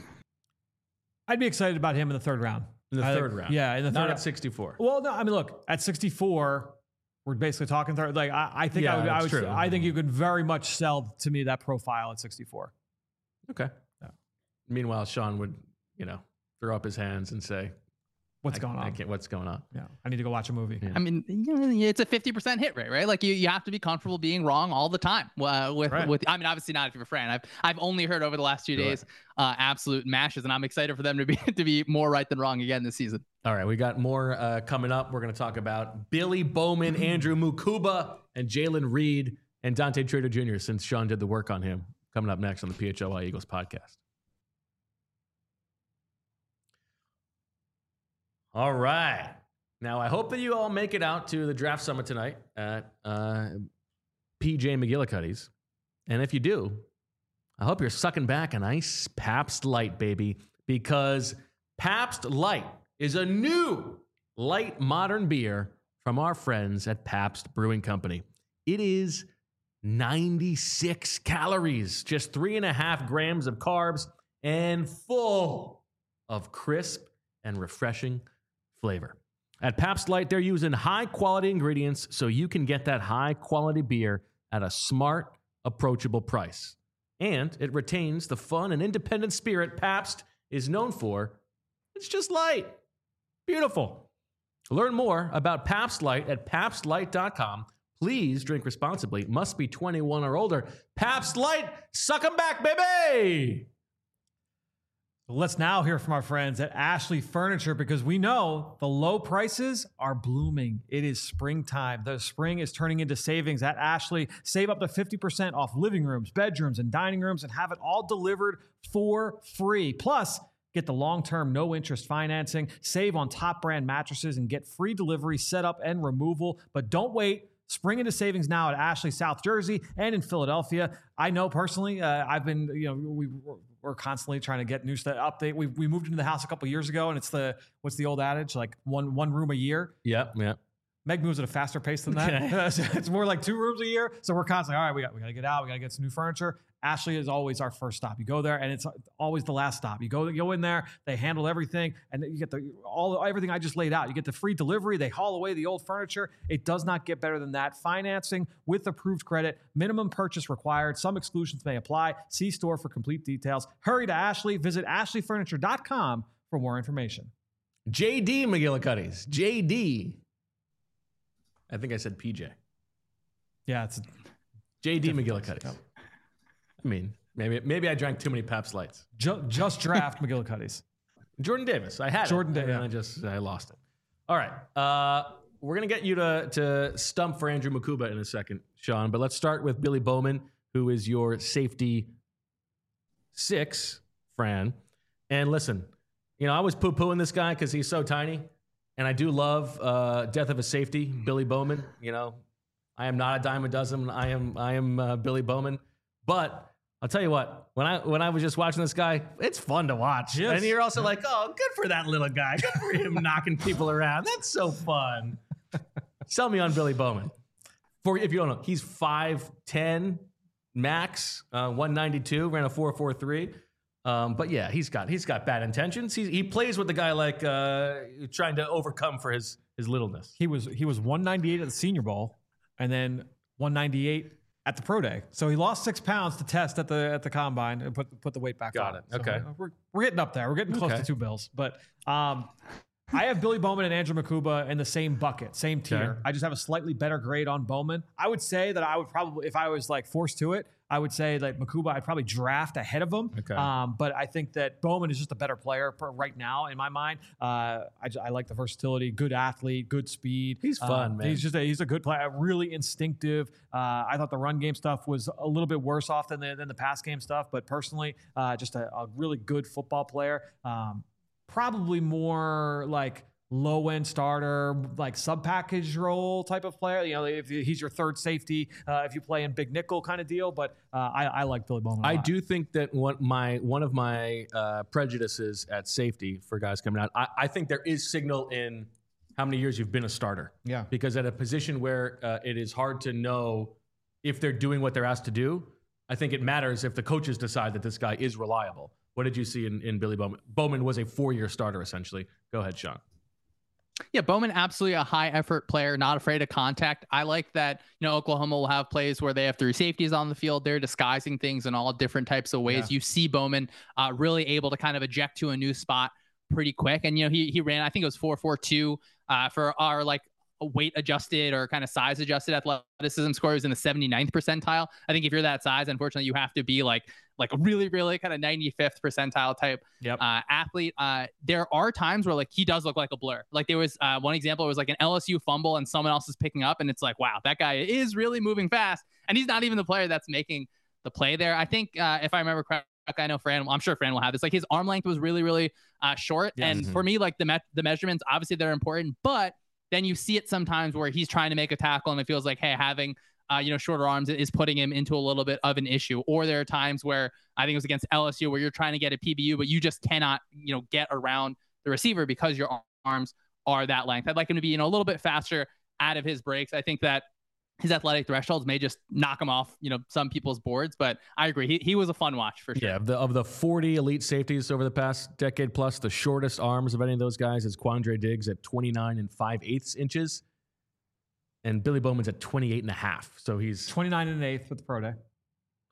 I'd be excited about him in the third round. In the I third think, round. Yeah, in the third Not round. at sixty-four. Well, no, I mean, look, at sixty-four, we're basically talking third. Like, I, I think Yeah, I would, I that's would, true. I think you could very much sell to me that profile at sixty-four. Okay. Yeah. Meanwhile, Sean would, you know, throw up his hands and say, What's I, going on? I can't, what's going on? Yeah. I need to go watch a movie. Yeah. I mean, it's a fifty percent hit rate, right? Like you, you have to be comfortable being wrong all the time. Uh, with, Right. with, I mean, obviously not if you're a friend. I've, I've only heard over the last few Sure. days, uh, absolute mashes, and I'm excited for them to be, to be more right than wrong again this season. All right, we got more uh, coming up. We're going to talk about Billy Bowman, Andrew Mukuba, and Jalen Reed, and Dante Trader Junior, since Sean did the work on him, coming up next on the P H L Y Eagles podcast. All right. Now, I hope that you all make it out to the draft summit tonight at uh, P J McGillicuddy's. And if you do, I hope you're sucking back a nice Pabst Light, baby, because Pabst Light is a new light modern beer from our friends at Pabst Brewing Company. It is ninety-six calories, just three and a half grams of carbs, and full of crisp and refreshing flavor. At Pabst Light, they're using high-quality ingredients so you can get that high-quality beer at a smart, approachable price. and it retains the fun and independent spirit Pabst is known for. It's just light. Beautiful. Learn more about Pabst Light at pabst light dot com. Please drink responsibly. Must be twenty-one or older. Pabst Light, suck 'em back, baby! Let's now hear from our friends at Ashley Furniture, because we know the low prices are blooming. It is springtime. The spring is turning into savings at Ashley. Save up to fifty percent off living rooms, bedrooms, and dining rooms, and have it all delivered for free. Plus, get the long-term no-interest financing, save on top brand mattresses, and get free delivery, setup, and removal. But don't wait. Spring into savings now at Ashley, South Jersey, and in Philadelphia. I know personally, uh, I've been, you know, we, we're constantly trying to get new stuff update. We we moved into the house a couple years ago, and it's the, what's the old adage? Like one one room a year. Yep, yep. Meg moves at a faster pace than that. Okay. It's more like two rooms a year. So we're constantly, all right, we got, we got to get out. We got to get some new furniture. Ashley is always our first stop. You go there, and it's always the last stop. You go, you go in there, they handle everything, and you get the all everything I just laid out. You get the free delivery. They haul away the old furniture. It does not get better than that. Financing with approved credit. Minimum purchase required. Some exclusions may apply. See store for complete details. Hurry to Ashley. Visit ashley furniture dot com for more information. J D McGillicuddy's. J D. I think I said P J. Yeah, it's J D McGillicuddy's. I mean, maybe maybe I drank too many Pabst Lights. Just, just draft McGillicuddy's. Jordan Davis. I had Jordan it. Davis. And I just I lost it. All right. Uh, we're gonna get you to to stump for Andrew Mukuba in a second, Sean. But let's start with Billy Bowman, who is your safety six, Fran. And listen, you know, I was poo-pooing this guy because he's so tiny. And I do love uh, Death of a Safety, Billy Bowman. You know, I am not a dime a dozen. I am I am uh, Billy Bowman. But I'll tell you what, when I when I was just watching this guy, it's fun to watch. Yes. And you're also like, oh, good for that little guy. Good for him knocking people around. That's so fun. Sell me on Billy Bowman. For if you don't know, he's five ten max, uh, one ninety-two, ran a four four three. Um, but yeah, he's got he's got bad intentions. He he plays with the guy like uh, trying to overcome for his his littleness. He was he was one ninety-eight at the Senior Bowl, and then one ninety-eight at the Pro Day. So he lost six pounds to test at the at the combine and put put the weight back Got on. it. Okay. So we're we're getting up there. We're getting close Okay. to two bills. But um, I have Billy Bowman and Andrew Mukuba in the same bucket, same tier. Okay. I just have a slightly better grade on Bowman. I would say that I would probably, if I was like forced to it, I would say that Mukuba I'd probably draft ahead of him. Okay. Um, but I think that Bowman is just a better player per, right now in my mind. Uh, I, I like the versatility, good athlete, good speed. He's fun, Um, man. He's just a, he's a good player, really instinctive. Uh, I thought the run game stuff was a little bit worse off than the, than the pass game stuff. But personally, uh, just a, a really good football player. Um, probably more like low end starter, like sub package role type of player. You know, if he's your third safety, uh, if you play in big nickel kind of deal. But uh, I, I like Billy Bowman. a I lot. do think that one my one of my uh, prejudices at safety for guys coming out, I, I think there is signal in how many years you've been a starter. Yeah. Because at a position where uh, it is hard to know if they're doing what they're asked to do, I think it matters if the coaches decide that this guy is reliable. What did you see in, in Billy Bowman? Bowman was a four-year starter, essentially. Go ahead, Sean. Yeah, Bowman, absolutely a high effort player, not afraid of contact. I like that, you know, Oklahoma will have plays where they have three safeties on the field. They're disguising things in all different types of ways. Yeah. You see Bowman uh, really able to kind of eject to a new spot pretty quick. And, you know, he he ran, I think it was four four two uh, for our like weight adjusted or kind of size adjusted athleticism score. He was in the seventy-ninth percentile. I think if you're that size, unfortunately, you have to be like like a really, really kind of ninety-fifth percentile type Yep. uh, athlete. Uh, there are times where like he does look like a blur. Like there was uh, one example, it was like an L S U fumble and someone else is picking up and it's like, wow, that guy is really moving fast. And he's not even the player that's making the play there. I think uh, if I remember correctly, I know Fran, I'm sure Fran will have this. Like his arm length was really, really uh, short. Yes. And Mm-hmm. for me, like the met- the measurements, obviously they're important, but then you see it sometimes where he's trying to make a tackle and it feels like, hey, having uh, you know, shorter arms is putting him into a little bit of an issue. Or there are times where I think it was against L S U where you're trying to get a P B U, but you just cannot, you know, get around the receiver because your arms are that length. I'd like him to be, you know, a little bit faster out of his breaks. I think that his athletic thresholds may just knock him off, you know, some people's boards, but I agree. He he was a fun watch for sure. Yeah, of the, of the forty elite safeties over the past decade plus, the shortest arms of any of those guys is Quandre Diggs at twenty-nine and five eighths inches. And Billy Bowman's at twenty-eight and a half. So he's twenty-nine and an eighth with the Pro Day.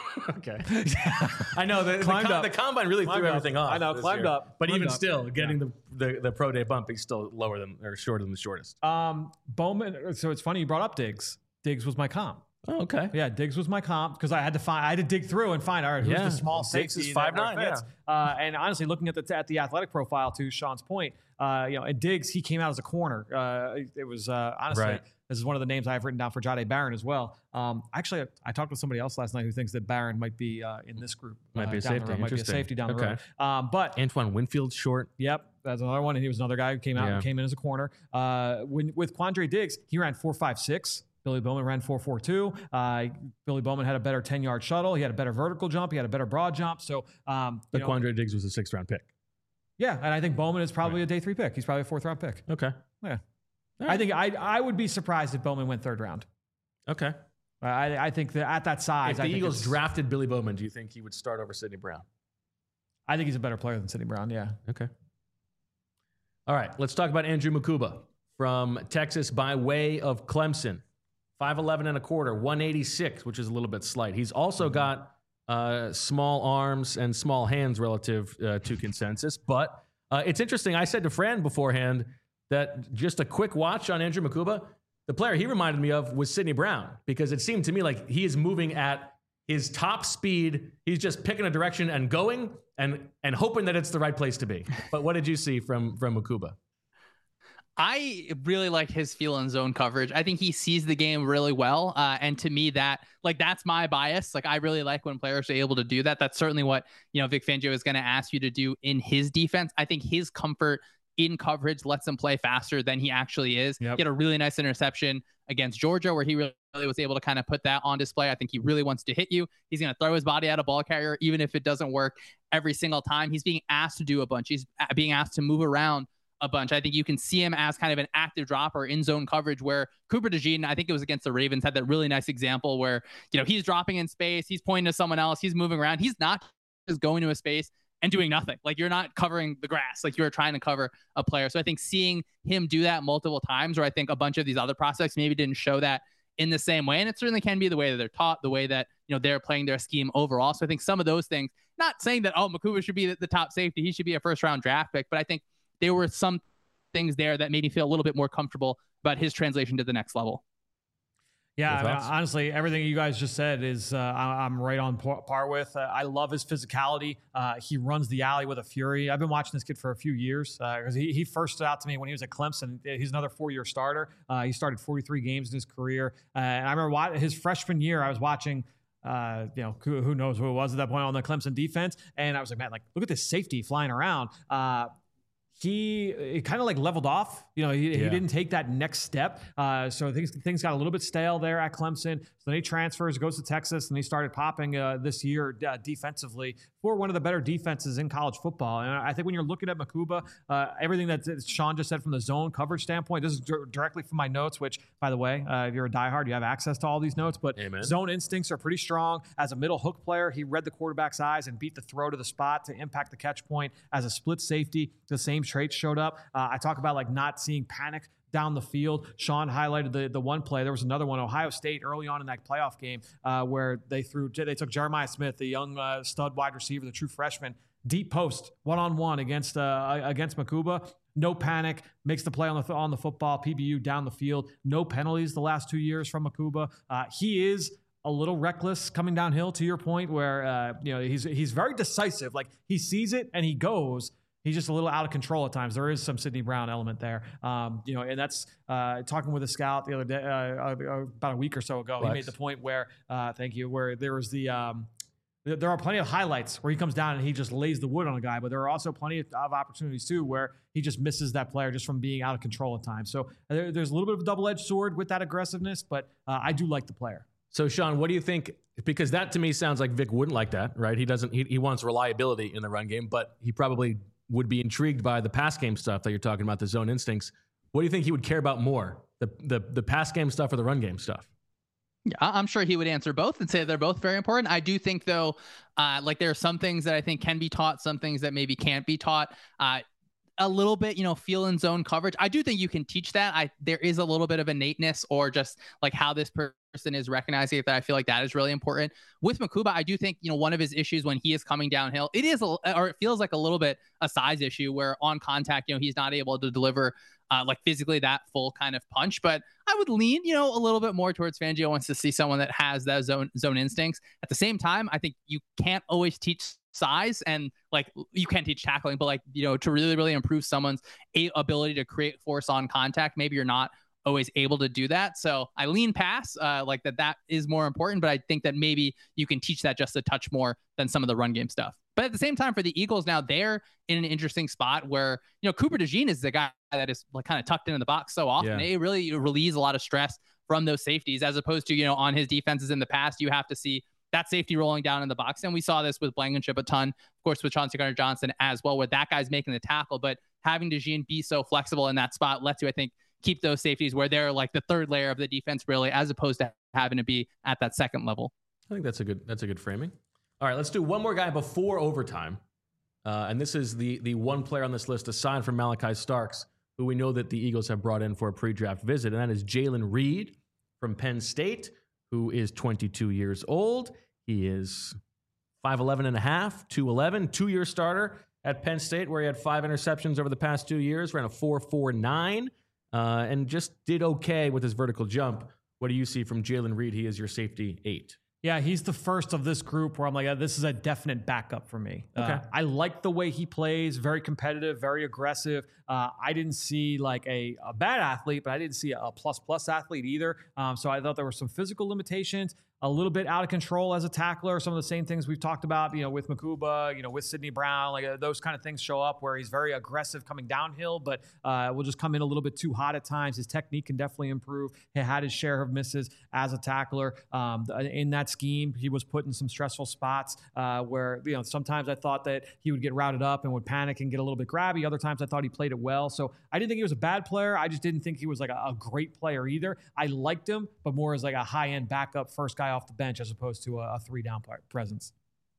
Okay. I know the, the, Climbed com- up. the combine really Climbed threw up. everything off. I know, this climbed year. up. But Climbed even up. still, getting Yeah. the, the the pro day bump, he's still lower than or shorter than the shortest. Um, Bowman. So it's funny you brought up Diggs. Diggs was my comp. Oh, okay. Yeah, Diggs was my comp because I had to find, I had to dig through and find, all right, who's Yeah, the small Diggs safety is that five nine, fits? Uh, and honestly, looking at the at the athletic profile, to Sean's point, uh, you know, and Diggs, he came out as a corner. Uh, it was uh, honestly, Right. this is one of the names I've written down for Jahdae Barron as well. Um, actually, I, I talked with somebody else last night who thinks that Barron might be uh, in this group. Might uh, be a down the safety. road, Might be a Interesting. safety down the Okay. road. Um, but Antoine Winfield's short. Yep, that's another one. And he was another guy who came out Yeah. and came in as a corner. Uh, when, with Quandre Diggs, he ran four five six. Billy Bowman ran four four two. Uh, Billy Bowman had a better ten-yard shuttle. He had a better vertical jump. He had a better broad jump. So, um, you But know, Quandre Diggs was a sixth round pick. yeah, and I think Bowman is probably a day three pick. He's probably a fourth-round pick. Okay. Yeah, All I right. think I I would be surprised if Bowman went third round. Okay. I I think that at that size, If the I think Eagles it's- drafted Billy Bowman, do you think he would start over Sidney Brown? I think he's a better player than Sidney Brown. Yeah. Okay. All right. Let's talk about Andrew Mukuba from Texas by way of Clemson. five eleven and a quarter, one eighty-six, which is a little bit slight. He's also got uh, small arms and small hands relative uh, to consensus. But uh, it's interesting. I said to Fran beforehand that just a quick watch on Andrew Mukuba, the player he reminded me of was Sidney Brown, because it seemed to me like he is moving at his top speed. He's just picking a direction and going and and hoping that it's the right place to be. But what did you see from from Mukuba? I really like his feel in zone coverage. I think he sees the game really well. Uh, and to me, that like that's my bias. Like I really like when players are able to do that. That's certainly what, you know, Vic Fangio is going to ask you to do in his defense. I think his comfort in coverage lets him play faster than he actually is. Yep. He had a really nice interception against Georgia where he really, really was able to kind of put that on display. I think he really wants to hit you. He's going to throw his body at a ball carrier, even if it doesn't work every single time. He's being asked to do a bunch. He's being asked to move around a bunch. I think you can see him as kind of an active dropper in zone coverage where Cooper DeJean, I think it was against the Ravens, had that really nice example where, you know, he's dropping in space, he's pointing to someone else, he's moving around. He's not just going to a space and doing nothing. Like you're not covering the grass, like you're trying to cover a player. So I think seeing him do that multiple times, where I think a bunch of these other prospects maybe didn't show that in the same way. And it certainly can be the way that they're taught, the way that, you know, they're playing their scheme overall. So I think some of those things, not saying that, oh, Mukuba should be the, the top safety, he should be a first round draft pick, but I think there were some things there that made me feel a little bit more comfortable about his translation to the next level. Yeah, I mean, thoughts? honestly, everything you guys just said is uh, I- I'm right on par, par with. Uh, I love his physicality. Uh, he runs the alley with a fury. I've been watching this kid for a few years because uh, he, he first stood out to me when he was at Clemson. He's another four-year starter. Uh, he started forty-three games in his career. Uh, and I remember wa- his freshman year, I was watching uh, you know, who, who knows who it was at that point on the Clemson defense. And I was like, man, like, look at this safety flying around. Uh, He it kind of like leveled off. You know, he, Yeah. he didn't take that next step. Uh, so things things got a little bit stale there at Clemson. So then he transfers, goes to Texas, and he started popping uh, this year uh, defensively for one of the better defenses in college football. And I think when you're looking at Mukuba, uh, everything that Sean just said from the zone coverage standpoint, this is d- directly from my notes, which, by the way, uh, if you're a diehard, you have access to all these notes. But Amen. zone instincts are pretty strong. As a middle hook player, he read the quarterback's eyes and beat the throw to the spot to impact the catch point. As a split safety, the same traits showed up. Uh, I talk about like not seeing panic down the field. Sean highlighted the the one play. There was another one, Ohio State, early on in that playoff game, uh, where they threw they took Jeremiah Smith, the young uh, stud wide receiver, the true freshman, deep post one on one against uh, against Mukuba. No panic, makes the play on the on the football. P B U down the field. No penalties the last two years from Mukuba. Uh, he is a little reckless coming downhill, to your point, where uh, you know he's he's very decisive. Like he sees it and he goes. He's just a little out of control at times. There is some Sidney Brown element there, um, you know, and that's uh, talking with a scout the other day, uh, uh, about a week or so ago. Flex. He made the point where, uh, thank you, where there was the, um, th- there are plenty of highlights where he comes down and he just lays the wood on a guy, but there are also plenty of, of opportunities too where he just misses that player just from being out of control at times. So uh, there, there's a little bit of a double-edged sword with that aggressiveness, but uh, I do like the player. So, Sean, what do you think? Because that to me sounds like Vic wouldn't like that, right? He doesn't. He, he wants reliability in the run game, but he probably would be intrigued by the pass game stuff that you're talking about, the zone instincts. What do you think he would care about more, the the the pass game stuff or the run game stuff? Yeah, I- I'm sure he would answer both and say they're both very important. I do think, though, uh, like there are some things that I think can be taught, some things that maybe can't be taught. Uh, a little bit, you know, feel in zone coverage. I do think you can teach that. I there is a little bit of innateness or just like how this person is recognizing it that I feel like that is really important. With Mukuba, I do think, you know, one of his issues when he is coming downhill, it is, a, or it feels like a little bit a size issue where on contact, you know, he's not able to deliver uh, like physically that full kind of punch. But I would lean, you know, a little bit more towards Fangio wants to see someone that has that zone zone instincts. At the same time, I think you can't always teach size, and like you can teach tackling, but like, you know, to really, really improve someone's a- ability to create force on contact, maybe you're not always able to do that. So I lean past uh, like that, that is more important, but I think that maybe you can teach that just a touch more than some of the run game stuff. But at the same time, for the Eagles now, they're in an interesting spot where, you know, Cooper DeJean is the guy that is like kind of tucked into the box so often. Yeah. It really relieves a lot of stress from those safeties, as opposed to, you know, on his defenses in the past, you have to see that safety rolling down in the box. And we saw this with Blankenship a ton, of course, with Chauncey Gardner-Johnson as well, where that guy's making the tackle. But having DeJean be so flexible in that spot lets you, I think, keep those safeties where they're like the third layer of the defense, really, as opposed to having to be at that second level. I think that's a good that's a good framing. All right, let's do one more guy before overtime. Uh, and this is the the one player on this list aside from Malachi Starks, who we know that the Eagles have brought in for a pre-draft visit, and that is Jalen Reed from Penn State, who is twenty-two years old. He is five eleven and a half, two eleven, two-year starter at Penn State, where he had five interceptions over the past two years, ran a four four nine, uh, and just did okay with his vertical jump. What do you see from Jalen Reed? He is your safety eight. Yeah, he's the first of this group where I'm like, this is a definite backup for me. Okay. Uh, I like the way he plays, very competitive, very aggressive. Uh, I didn't see like a, a bad athlete, but I didn't see a plus-plus athlete either. Um, so I thought there were some physical limitations, a little bit out of control as a tackler. Some of the same things we've talked about, you know, with Mukuba, you know, with Sidney Brown, like uh, those kind of things show up where he's very aggressive coming downhill, but uh, will just come in a little bit too hot at times. His technique can definitely improve. He had his share of misses as a tackler. Um, in that scheme, he was put in some stressful spots uh, where, you know, sometimes I thought that he would get routed up and would panic and get a little bit grabby. Other times I thought he played it well. So I didn't think he was a bad player. I just didn't think he was like a, a great player either. I liked him, but more as like a high-end backup first guy off the bench as opposed to a, a three-down presence.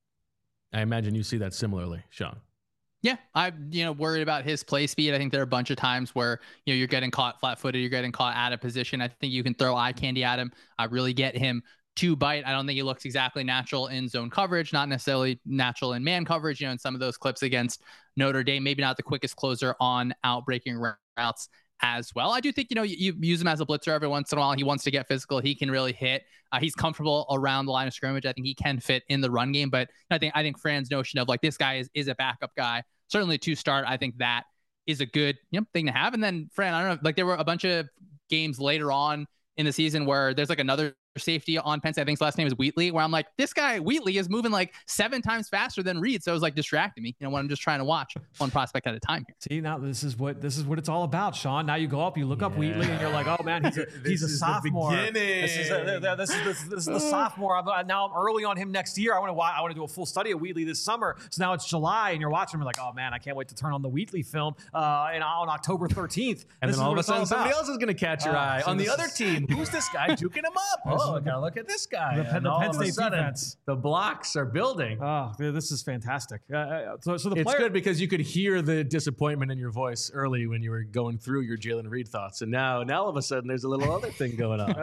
I imagine you see that similarly, Sean. Yeah, I'm, you know, worried about his play speed. I think there are a bunch of times where, you know, you're getting caught flat-footed, you're getting caught out of position. I think you can throw eye candy at him. I really get him to bite. I don't think he looks exactly natural in zone coverage, not necessarily natural in man coverage. You know, in some of those clips against Notre Dame, maybe not the quickest closer on out-breaking routes as well. I do think, you know, you, you use him as a blitzer every once in a while. He wants to get physical. He can really hit. Uh, he's comfortable around the line of scrimmage. I think he can fit in the run game, but I think, I think Fran's notion of like, this guy is, is a backup guy, certainly to start. I think that is a good, you know, thing to have. And then Fran, I don't know, like there were a bunch of games later on in the season where there's like another safety on Penn State. I think his last name is Wheatley, where I'm like, this guy Wheatley is moving like seven times faster than Reed. So it was like distracting me, you know, when I'm just trying to watch one prospect at a time here. See, now this is what this is what it's all about, Sean. Now you go up, you look yeah. up Wheatley, and you're like, oh man, he's a, he's a sophomore. This is, a, this, is, this, this is the sophomore. I'm, now I'm early on him next year. I want to I want to do a full study of Wheatley this summer. So now it's July, and you're watching him, you're like, oh man, I can't wait to turn on the Wheatley film uh, and on October thirteenth. And this then all of a sudden, somebody else is going to catch your uh, eye so on the other is, team. Who's this guy juking him up? Oh, I gotta look at this guy. The, the Penn State defense. The blocks are building. Oh, this is fantastic. Uh, so, so the it's player- good because you could hear the disappointment in your voice early when you were going through your Jalen Reed thoughts, and now, now all of a sudden, there's a little other thing going on.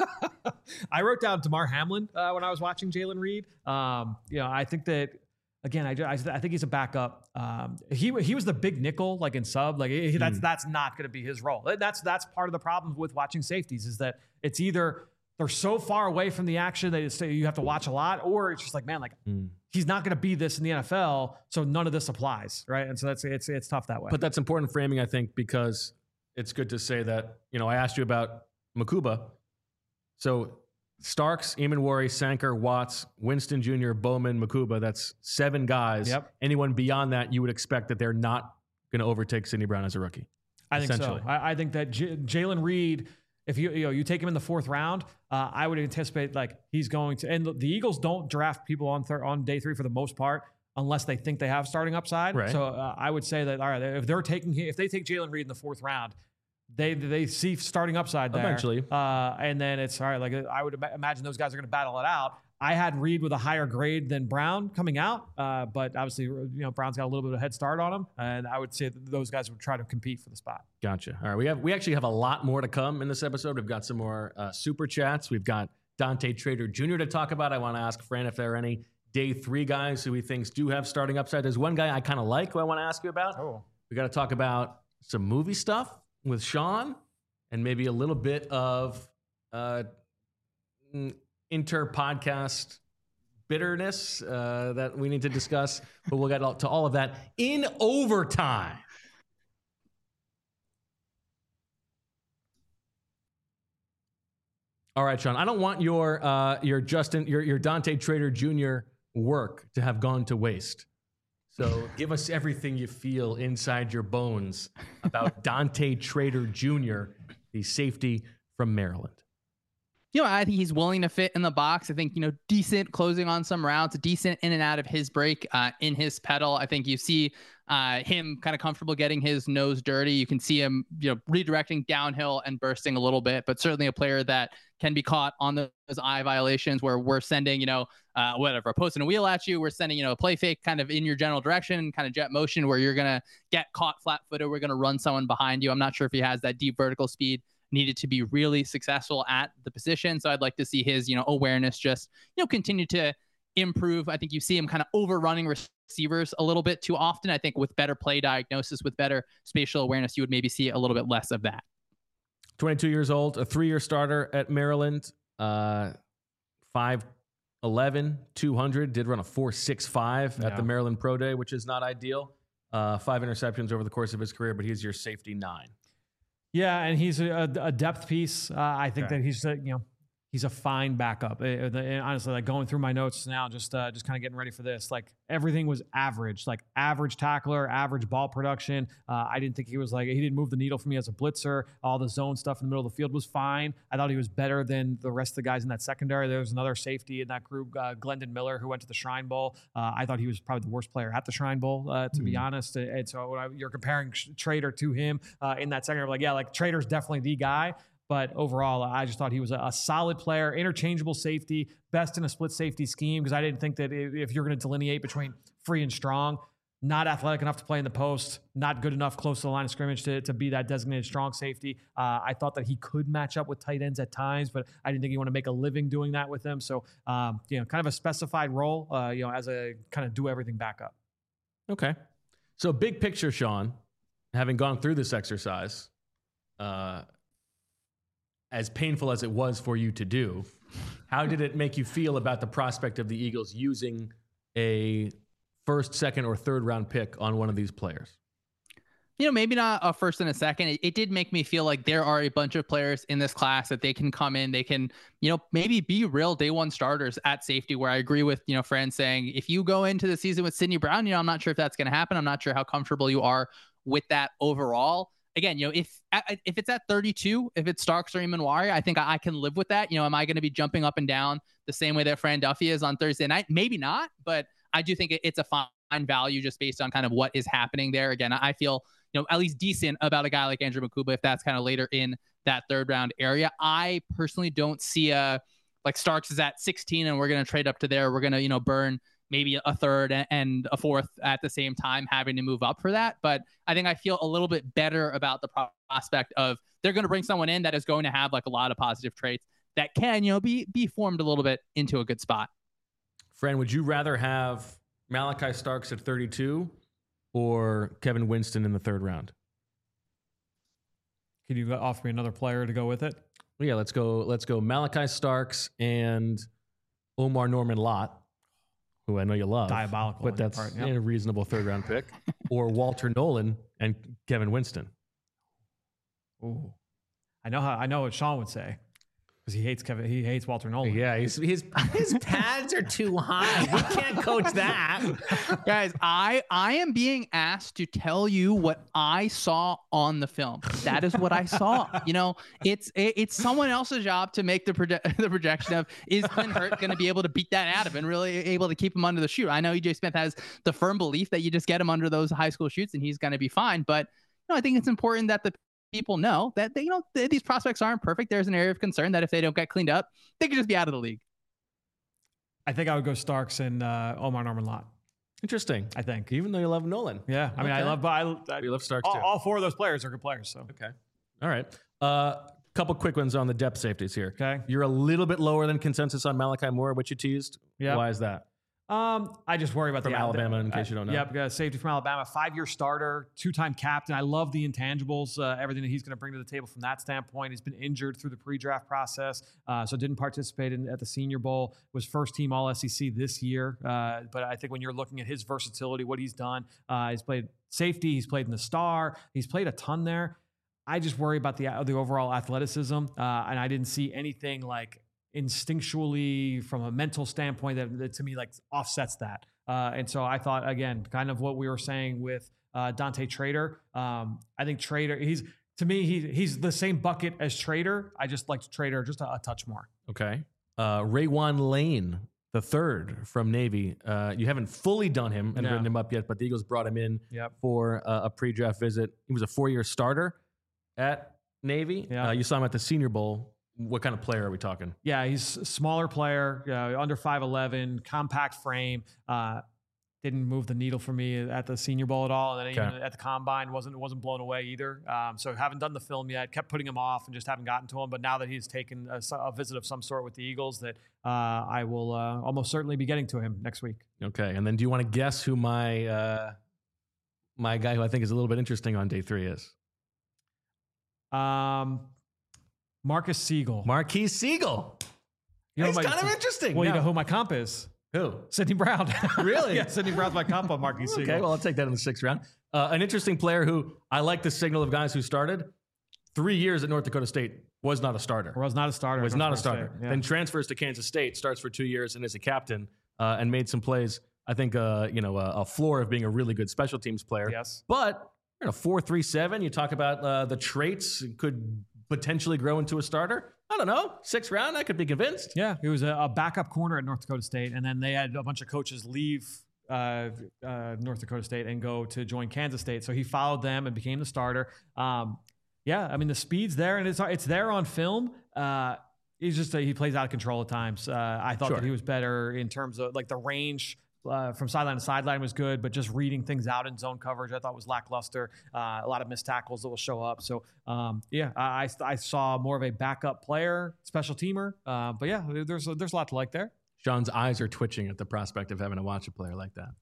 I wrote down Damar Hamlin uh, when I was watching Jalen Reed. Um, you know, I think that. Again, I, I, I think he's a backup. Um, he he was the big nickel, like in sub. Like he, that's mm. that's not going to be his role. That's that's part of the problem with watching safeties is that it's either they're so far away from the action that it's, you have to watch a lot, or it's just like, man, like mm. he's not going to be this in the N F L, so none of this applies, right? And so that's it's it's tough that way. But that's important framing, I think, because it's good to say that, you know, I asked you about Mukuba, so. Starks, Eamon Sanker, Watts, Winston Junior, Bowman, Mukuba. That's seven guys. Yep. Anyone beyond that, you would expect that they're not going to overtake Sidney Brown as a rookie. I think so. I, I think that J- Jalen Reed, if you you know you take him in the fourth round, uh, I would anticipate like he's going to. And the, the Eagles don't draft people on thir- on day three for the most part unless they think they have starting upside. Right. So uh, I would say that all right, if they're taking if they take Jalen Reed in the fourth round. They they see starting upside there eventually, uh, and then it's all right. Like I would imagine those guys are going to battle it out. I had Reed with a higher grade than Brown coming out, uh, but obviously, you know, Brown's got a little bit of a head start on him, and I would say that those guys would try to compete for the spot. Gotcha. All right, we have we actually have a lot more to come in this episode. We've got some more uh, super chats. We've got Dante Trader Junior to talk about. I want to ask Fran if there are any day three guys who he thinks do have starting upside. There's one guy I kind of like who I want to ask you about. Oh. We got to talk about some movie stuff with Sean and maybe a little bit of uh, inter-podcast bitterness uh, that we need to discuss. But we'll get to all of that in overtime. All right, Sean, I don't want your uh, your Justin, your, your Dante Trader Junior work to have gone to waste. So give us everything you feel inside your bones about Dante Trader Junior, the safety from Maryland. You know, I think he's willing to fit in the box. I think, you know, decent closing on some routes, decent in and out of his break, uh, in his pedal. I think you see uh, him kind of comfortable getting his nose dirty. You can see him, you know, redirecting downhill and bursting a little bit, but certainly a player that can be caught on those eye violations where we're sending, you know, uh, whatever, posting a wheel at you. We're sending, you know, a play fake kind of in your general direction, kind of jet motion where you're going to get caught flat footed. We're going to run someone behind you. I'm not sure if he has that deep vertical speed needed to be really successful at the position. So I'd like to see his, you know, awareness just, you know, continue to improve. I think you see him kind of overrunning receivers a little bit too often. I think with better play diagnosis, with better spatial awareness, you would maybe see a little bit less of that. twenty-two years old, a three-year starter at Maryland, uh, five eleven, two hundred, did run a four six five yeah. at the Maryland Pro Day, which is not ideal. Uh, five interceptions over the course of his career, but he's your safety nine. Yeah, and he's a, a depth piece. Uh, I think okay. that he's, uh, you know, he's a fine backup. Uh, the, and honestly, like going through my notes now, just uh, just kind of getting ready for this, like everything was average, like average tackler, average ball production. Uh, I didn't think he was like, he didn't move the needle for me as a blitzer. All the zone stuff in the middle of the field was fine. I thought he was better than the rest of the guys in that secondary. There was another safety in that group, uh, Glendon Miller, who went to the Shrine Bowl. Uh, I thought he was probably the worst player at the Shrine Bowl, uh, to mm. be honest. And so when I, you're comparing Trader to him uh, in that secondary, like, yeah, like Trader's definitely the guy. But overall, I just thought he was a, a solid player, interchangeable safety, best in a split safety scheme, because I didn't think that if you're going to delineate between free and strong, not athletic enough to play in the post, not good enough close to the line of scrimmage to, to be that designated strong safety. Uh, I thought that he could match up with tight ends at times, but I didn't think he want to make a living doing that with them. So, um, you know, kind of a specified role, uh, you know, as a kind of do everything backup. Okay. So big picture, Sean, having gone through this exercise, uh, as painful as it was for you to do, how did it make you feel about the prospect of the Eagles using a first, second, or third round pick on one of these players? You know, maybe not a first and a second. It, it did make me feel like there are a bunch of players in this class that they can come in, they can, you know, maybe be real day one starters at safety, where I agree with, you know, Fran saying, if you go into the season with Sidney Brown, you know, I'm not sure if that's going to happen. I'm not sure how comfortable you are with that overall. Again, you know, if if it's at thirty-two, if it's Starks or Emanwari, I think I, I can live with that. You know, am I going to be jumping up and down the same way that Fran Duffy is on Thursday night? Maybe not, but I do think it, it's a fine value just based on kind of what is happening there. Again, I feel, you know, at least decent about a guy like Andrew Mukuba if that's kind of later in that third round area. I personally don't see a, like Starks is at sixteen and we're going to trade up to there. We're going to, you know, burn maybe a third and a fourth at the same time, having to move up for that. But I think I feel a little bit better about the prospect of they're going to bring someone in that is going to have like a lot of positive traits that can, you know, be, be formed a little bit into a good spot. Fran, would you rather have Malachi Starks at thirty-two or Kevin Winston in the third round? Could you offer me another player to go with it? Well, yeah, let's go. Let's go Malachi Starks and Omar Norman Lott, who I know you love. Diabolical. But that's part, yep. a reasonable third round pick. Or Walter Nolan and Kevin Winston. Ooh. I know how I know what Sean would say. Because he hates Kevin, he hates Walter Nolan. Yeah, he's, his his pads are too high. We can't coach that. Guys, I I am being asked to tell you what I saw on the film. That is what I saw. You know, it's it, it's someone else's job to make the proje- the projection of, is Glenn Hurt going to be able to beat that out of and really able to keep him under the chute. I know E J Smith has the firm belief that you just get him under those high school chutes and he's going to be fine. But you know, I think it's important that the people know that they, you know, th- these prospects aren't perfect. There's an area of concern that if they don't get cleaned up, they could just be out of the league. I think I would go Starks and uh, Omar Norman Lott. Interesting. I think. Even though you love Nolan. Yeah. I mean, Okay. I love, I, I, You love Starks all, too. all four of those players are good players. So, Okay. All right. Uh, couple quick ones on the depth safeties here. okay. You're a little bit lower than consensus on Malachi Moore, which you teased. Yeah. Why is that? Um, I just worry about From the Alabama, in uh, case you don't know. Yep, uh, safety from Alabama, five-year starter, two-time captain. I love the intangibles, uh, everything that he's going to bring to the table from that standpoint. He's been injured through the pre-draft process, uh, so didn't participate in, at the Senior Bowl. Was first-team All S E C this year, uh, but I think when you're looking at his versatility, what he's done, uh, he's played safety, he's played in the star, he's played a ton there. I just worry about the the overall athleticism, uh, and I didn't see anything like instinctually from a mental standpoint that, that to me like offsets that. Uh, and so I thought, again, kind of what we were saying with uh, Dante Trader. Um, I think Trader, he's to me, he, he's the same bucket as Trader. I just liked Trader just a, a touch more. Okay. Uh, Raywan Lane, the third from Navy. Uh, you haven't fully done him and No. written him up yet, but the Eagles brought him in Yep. for uh, a pre-draft visit. He was a four-year starter at Navy. Yeah. Uh, you saw him at the Senior Bowl. What kind of player are we talking? Yeah, he's a smaller player, uh, under five eleven, compact frame. Uh, didn't move the needle for me at the Senior Bowl at all, and then Okay. even at the Combine wasn't wasn't blown away either. Um, so haven't done the film yet. Kept putting him off and just haven't gotten to him. But now that he's taken a, a visit of some sort with the Eagles, that uh, I will uh, almost certainly be getting to him next week. Okay. And then do you want to guess who my uh, my guy who I think is a little bit interesting on day three is? Um, Marcus Siegel. Marquise Siegel. You know He's my- kind of interesting. Well, you Now- know who my comp is? who? Sidney Brown. Really? yeah, Sidney Brown's my comp on Marquis Siegel. Okay, well, I'll take that in the sixth round. Uh, an interesting player who I like the signal of guys who started. Three years at North Dakota State, was not a starter. was not a starter. Was at not a North starter. Dakota State. Yeah. Then transfers to Kansas State, starts for two years, and is a captain, uh, and made some plays. I think, uh, you know, a, a floor of being a really good special teams player. Yes. But in a four three seven, you talk about uh, the traits could potentially grow into a starter. I don't know. Sixth round, I could be convinced. Yeah, he was a, a backup corner at North Dakota State, and then they had a bunch of coaches leave uh, uh, North Dakota State and go to join Kansas State. So he followed them and became the starter. Um, yeah, I mean the speed's there, and it's it's there on film. Uh, he's just a, he plays out of control at times. Uh, I thought Sure. that he was better in terms of like the range. Uh, from sideline to sideline was good, but just reading things out in zone coverage, I thought was lackluster. Uh, a lot of missed tackles that will show up. So, um, yeah, I, I I saw more of a backup player, special teamer. Uh, but yeah, there's a, there's a lot to like there. Sean's eyes are twitching at the prospect of having to watch a player like that.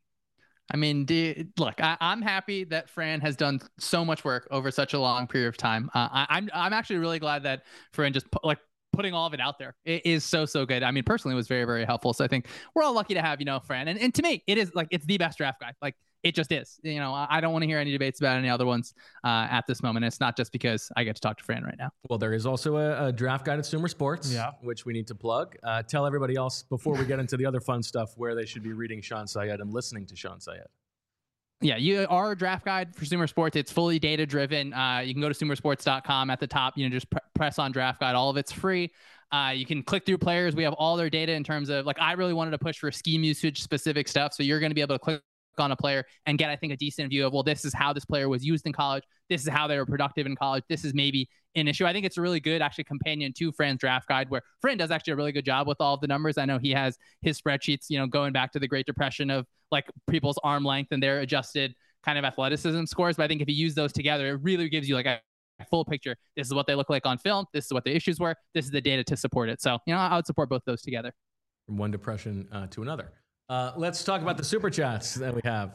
I mean, do, look, I, I'm happy that Fran has done so much work over such a long period of time. Uh, I, I'm I'm actually really glad that Fran just put, like putting all of it out there. It is so so good. I mean, personally, it was very very helpful. So I think we're all lucky to have you know Fran, and and to me, it is like it's the best draft guy. Like it just is. You know, I, I don't want to hear any debates about any other ones uh, at this moment. It's not just because I get to talk to Fran right now. Well, there is also a, a draft guide at Sumer Sports, Yeah. which we need to plug. Uh, tell everybody else before we get into the other fun stuff where they should be reading Sean Syed and listening to Sean Syed. Yeah, you are a draft guide for Sumer Sports. It's fully data driven. Uh, you can go to sumer sports dot com at the top. You know, just pr- press on draft guide. All of it's free. Uh, you can click through players. We have all their data in terms of like I really wanted to push for scheme usage specific stuff. So you're going to be able to click on a player and get, I think, a decent view of, well, this is how this player was used in college. This is how they were productive in college. This is maybe an issue. I think it's a really good actually companion to Fran's draft guide, where Fran does actually a really good job with all of the numbers. I know he has his spreadsheets, you know, going back to the Great Depression of like people's arm length and their adjusted kind of athleticism scores. But I think if you use those together, it really gives you like a full picture. This is what they look like on film. This is what the issues were. This is the data to support it. So, you know, I would support both those together. From one depression uh, to another. Uh, let's talk about the super chats that we have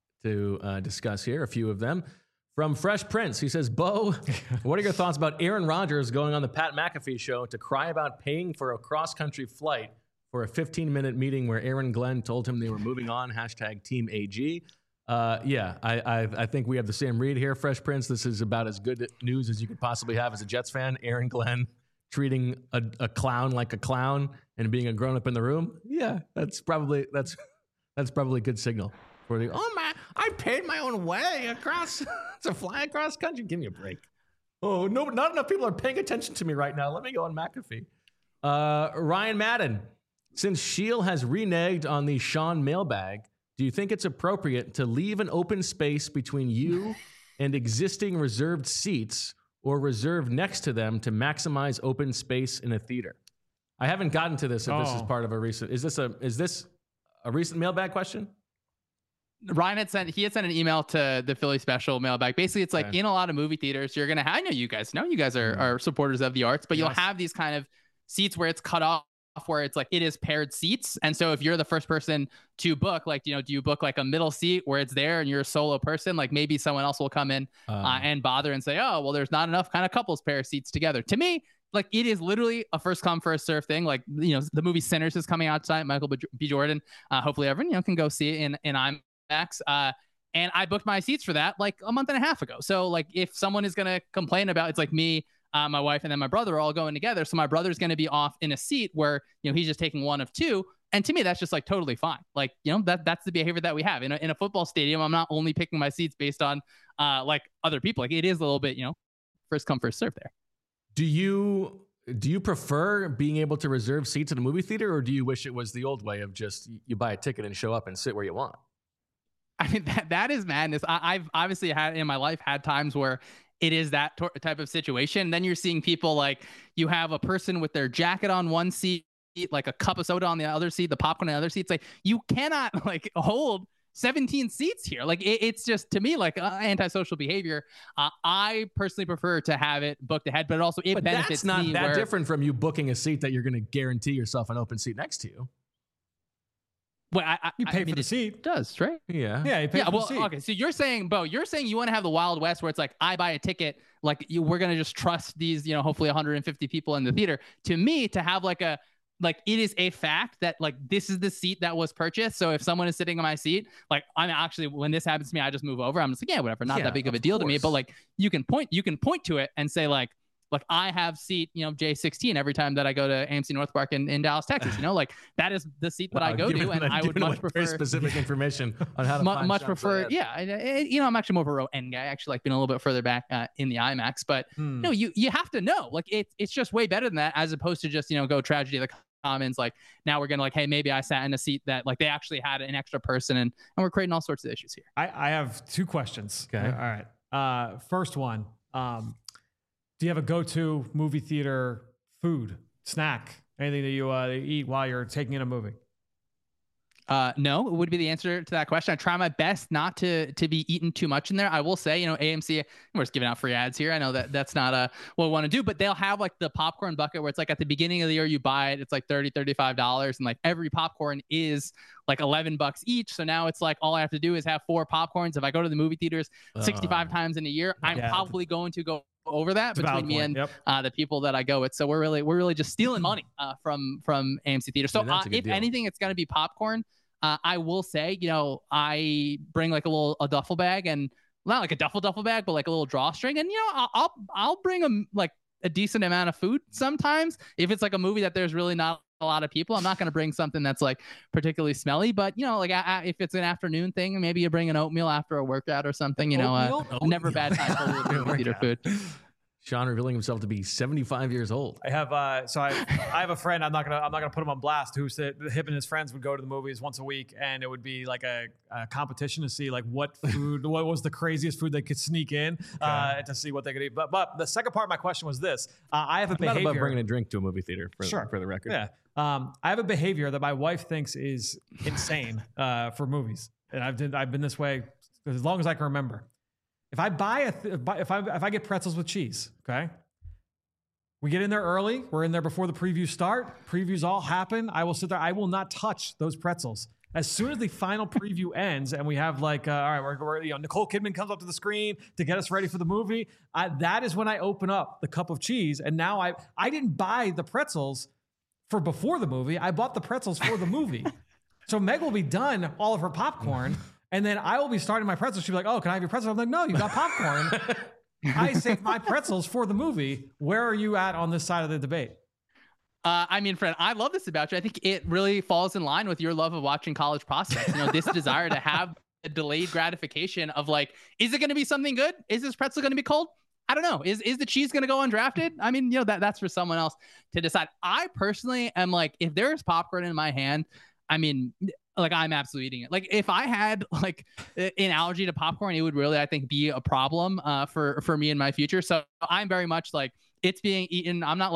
to uh, discuss here. A few of them. From Fresh Prince, he says, Bo, what are your thoughts about Aaron Rodgers going on the Pat McAfee show to cry about paying for a cross-country flight for a fifteen-minute meeting where Aaron Glenn told him they were moving on, hashtag Team A G? Uh, yeah, I, I I think we have the same read here, Fresh Prince. This is about as good news as you could possibly have as a Jets fan. Aaron Glenn treating a, a clown like a clown and being a grown-up in the room. Yeah, that's probably that's that's probably a good signal for the, oh my, I paid my own way across to fly across country. Give me a break. Oh, no, not enough people are paying attention to me right now. Let me go on McAfee. Uh, Ryan Madden, since Sheil has reneged on the Sean mailbag, do you think it's appropriate to leave an open space between you and existing reserved seats or reserve next to them to maximize open space in a theater? I haven't gotten to this. If Oh. this is part of a recent, is this a is this a recent mailbag question? Ryan had sent he had sent an email to the Philly Special mailbag. Basically, it's like Okay. in a lot of movie theaters, you're gonna have, I know you guys know you guys are, are supporters of the arts, but Yes. you'll have these kind of seats where it's cut off, where it's like it is paired seats. And so if you're the first person to book, like, you know, do you book like a middle seat where it's there and you're a solo person? Like maybe someone else will come in Um, uh, and bother and say, oh, well, there's not enough kind of couples pair seats together. To me, like it is literally a first come first serve thing. Like, you know, the movie Sinners is coming out tonight. Michael B. Jordan. Uh, hopefully everyone, you know, can go see it in in IMAX. Uh, and I booked my seats for that like a month and a half ago. So like if someone is gonna complain about, it's like me, uh, my wife, and then my brother are all going together. So my brother's gonna be off in a seat where, you know, he's just taking one of two. And to me, that's just like totally fine. Like, you know, that that's the behavior that we have in a, in a football stadium. I'm not only picking my seats based on uh like other people. Like it is a little bit, you know, first come first serve there. Do you do you prefer being able to reserve seats at a movie theater, or do you wish it was the old way of just you buy a ticket and show up and sit where you want? I mean, that that is madness. I, I've obviously had in my life had times where it is that tor- type of situation. And then you're seeing people like you have a person with their jacket on one seat, like a cup of soda on the other seat, the popcorn on the other seat. It's like you cannot like hold seventeen seats here. Like it, it's just to me like uh, antisocial behavior. Uh, I personally prefer to have it booked ahead, but it also it But benefits that's not me that where, different from you booking a seat that you're going to guarantee yourself an open seat next to you. Well, I, I, You I pay mean, for the it seat. does, right? Yeah. Yeah, you pay Yeah, for well, the seat. okay. So you're saying, Bo, you're saying you want to have the Wild West where it's like I buy a ticket, like you, we're gonna just trust these, you know, hopefully one hundred fifty people in the theater. To me, to have like a like it is a fact that like this is the seat that was purchased. So if someone is sitting in my seat, like I'm actually when this happens to me, I just move over. I'm just like, yeah, whatever, not Yeah, that big of a of deal to me. course. But like you can point, you can point to it and say like. Like I have seat, you know, J sixteen every time that I go to A M C North Park in, in Dallas, Texas. You know, like that is the seat that I Wow, go giving- to, and I would giving much away very prefer specific information on how to mu- find much shots prefer. ahead. Yeah, I, I- you know, I'm actually more of a row end guy. I actually like being a little bit further back uh, in the IMAX, but Hmm. no, you you have to know. Like it's it's just way better than that, as opposed to just you know go tragedy of the commons. Like now we're gonna like, hey, maybe I sat in a seat that like they actually had an extra person, and and we're creating all sorts of issues here. I, I have two questions. Okay. All right. Uh, first one. Um, do you have a go-to movie theater food, snack, anything that you uh, eat while you're taking in a movie? Uh, no, it would be the answer to that question. I try my best not to to be eating too much in there. I will say, you know, A M C, we're just giving out free ads here. I know that that's not uh, what we want to do, but they'll have like the popcorn bucket where it's like at the beginning of the year you buy it, it's like thirty, thirty-five dollars, and like every popcorn is like eleven bucks each. So now it's like all I have to do is have four popcorns. If I go to the movie theaters sixty-five Uh, times in a year, I'm yeah. probably going to go over that It's a valid between me point. and Yep. uh, the people that I go with. So we're really we're really just stealing money uh, from from A M C theaters. So I mean, that's uh, a good if deal. anything, it's going to be popcorn. Uh, I will say, you know, I bring like a little a duffel bag, and not like a duffel duffel bag, but like a little drawstring, and you know, I'll I'll, I'll bring a like a decent amount of food sometimes. If it's like a movie that there's really not a lot of people, I'm not going to bring something that's like particularly smelly. But you know, like I, I, if it's an afternoon thing, maybe you bring an oatmeal after a workout or something. You know, uh, Oatmeal? never a bad time for a little movie theater food. Sean revealing himself to be seventy-five years old. I have uh, so I I have a friend. I'm not gonna I'm not gonna put him on blast. Who said him and his friends would go to the movies once a week, and it would be like a, a competition to see like what food, what was the craziest food they could sneak in uh, to see what they could eat. But but the second part of my question was this: uh, I have a I'm not behavior. above bringing a drink to a movie theater for, Sure. for the record. Yeah. Um, I have a behavior that my wife thinks is insane uh, for movies, and I've did, I've been this way as long as I can remember. If I buy a th- if I if I get pretzels with cheese, okay. We get in there early. We're in there before the previews start. Previews all happen. I will sit there. I will not touch those pretzels. As soon as the final preview ends and we have like, uh, all right, we're, we're, you know, Nicole Kidman comes up to the screen to get us ready for the movie. I, that is when I open up the cup of cheese. And now I, I didn't buy the pretzels for before the movie. I bought the pretzels for the movie. So Meg will be done all of her popcorn. And then I will be starting my pretzels. She'll be like, oh, can I have your pretzels? I'm like, no, you got popcorn. I saved my pretzels for the movie. Where are you at on this side of the debate? Uh, I mean, friend, I love this about you. I think it really falls in line with your love of watching college prospects. You know, this desire to have a delayed gratification of like, is it going to be something good? Is this pretzel going to be cold? I don't know. Is is the cheese going to go undrafted? I mean, you know, that that's for someone else to decide. I personally am like, if there's popcorn in my hand, I mean, like I'm absolutely eating it. Like if I had like an allergy to popcorn, it would really, I think, be a problem uh, for for me in my future. So I'm very much like it's being eaten. I'm not like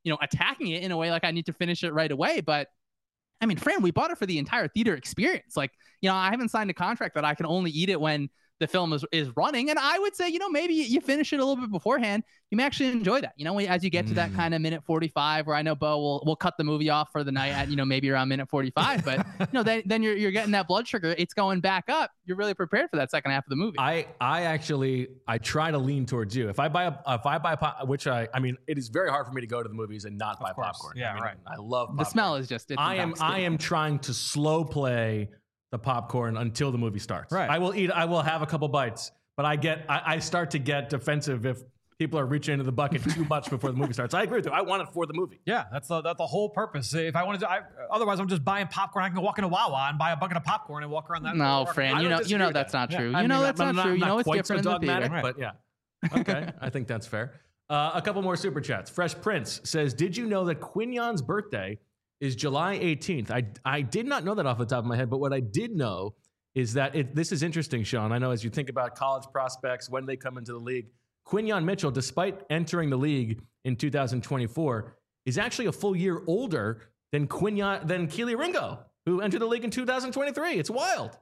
you know, attacking it in a way like I need to finish it right away. But I mean, Fran, we bought it for the entire theater experience. Like, you know, I haven't signed a contract that I can only eat it when the film is, is running. And I would say, you know, maybe you finish it a little bit beforehand. You may actually enjoy that. You know, as you get to that kind of minute forty-five, where I know Bo will will cut the movie off for the night at, you know, maybe around minute forty-five. But, you know, then, then you're, you're getting that blood sugar. It's going back up. You're really prepared for that second half of the movie. I, I actually, I try to lean towards you. If I buy a, if I buy, pop, which I, I mean, it is very hard for me to go to the movies and not buy popcorn. Yeah, I mean, right. I love popcorn. The smell is just, it's I am, I am trying to slow play the popcorn until the movie starts. Right. I will eat, I will have a couple bites, but I get, I, I start to get defensive if people are reaching into the bucket too much before the movie starts. I agree with you. I want it for the movie. Yeah, that's the that's the whole purpose. If I wanted to, I, otherwise I'm just buying popcorn. I can go walk into Wawa and buy a bucket of popcorn and walk around that. No, Fran, you know, you know that's that. not true. Yeah. You know mean, that's I'm not, not true. I'm You know not it's different so in the theater. dogmatic, but yeah. Okay, I think that's fair. Uh, a couple more super chats. Fresh Prince says, "Did you know that Quignon's birthday is July eighteenth?" I I did not know that off the top of my head, but what I did know is that it, this is interesting, Sean. I know as you think about college prospects when they come into the league, Quinyon Mitchell, despite entering the league in two thousand twenty-four, is actually a full year older than Quinyon than Kelee Ringo, who entered the league in two thousand twenty-three. It's wild.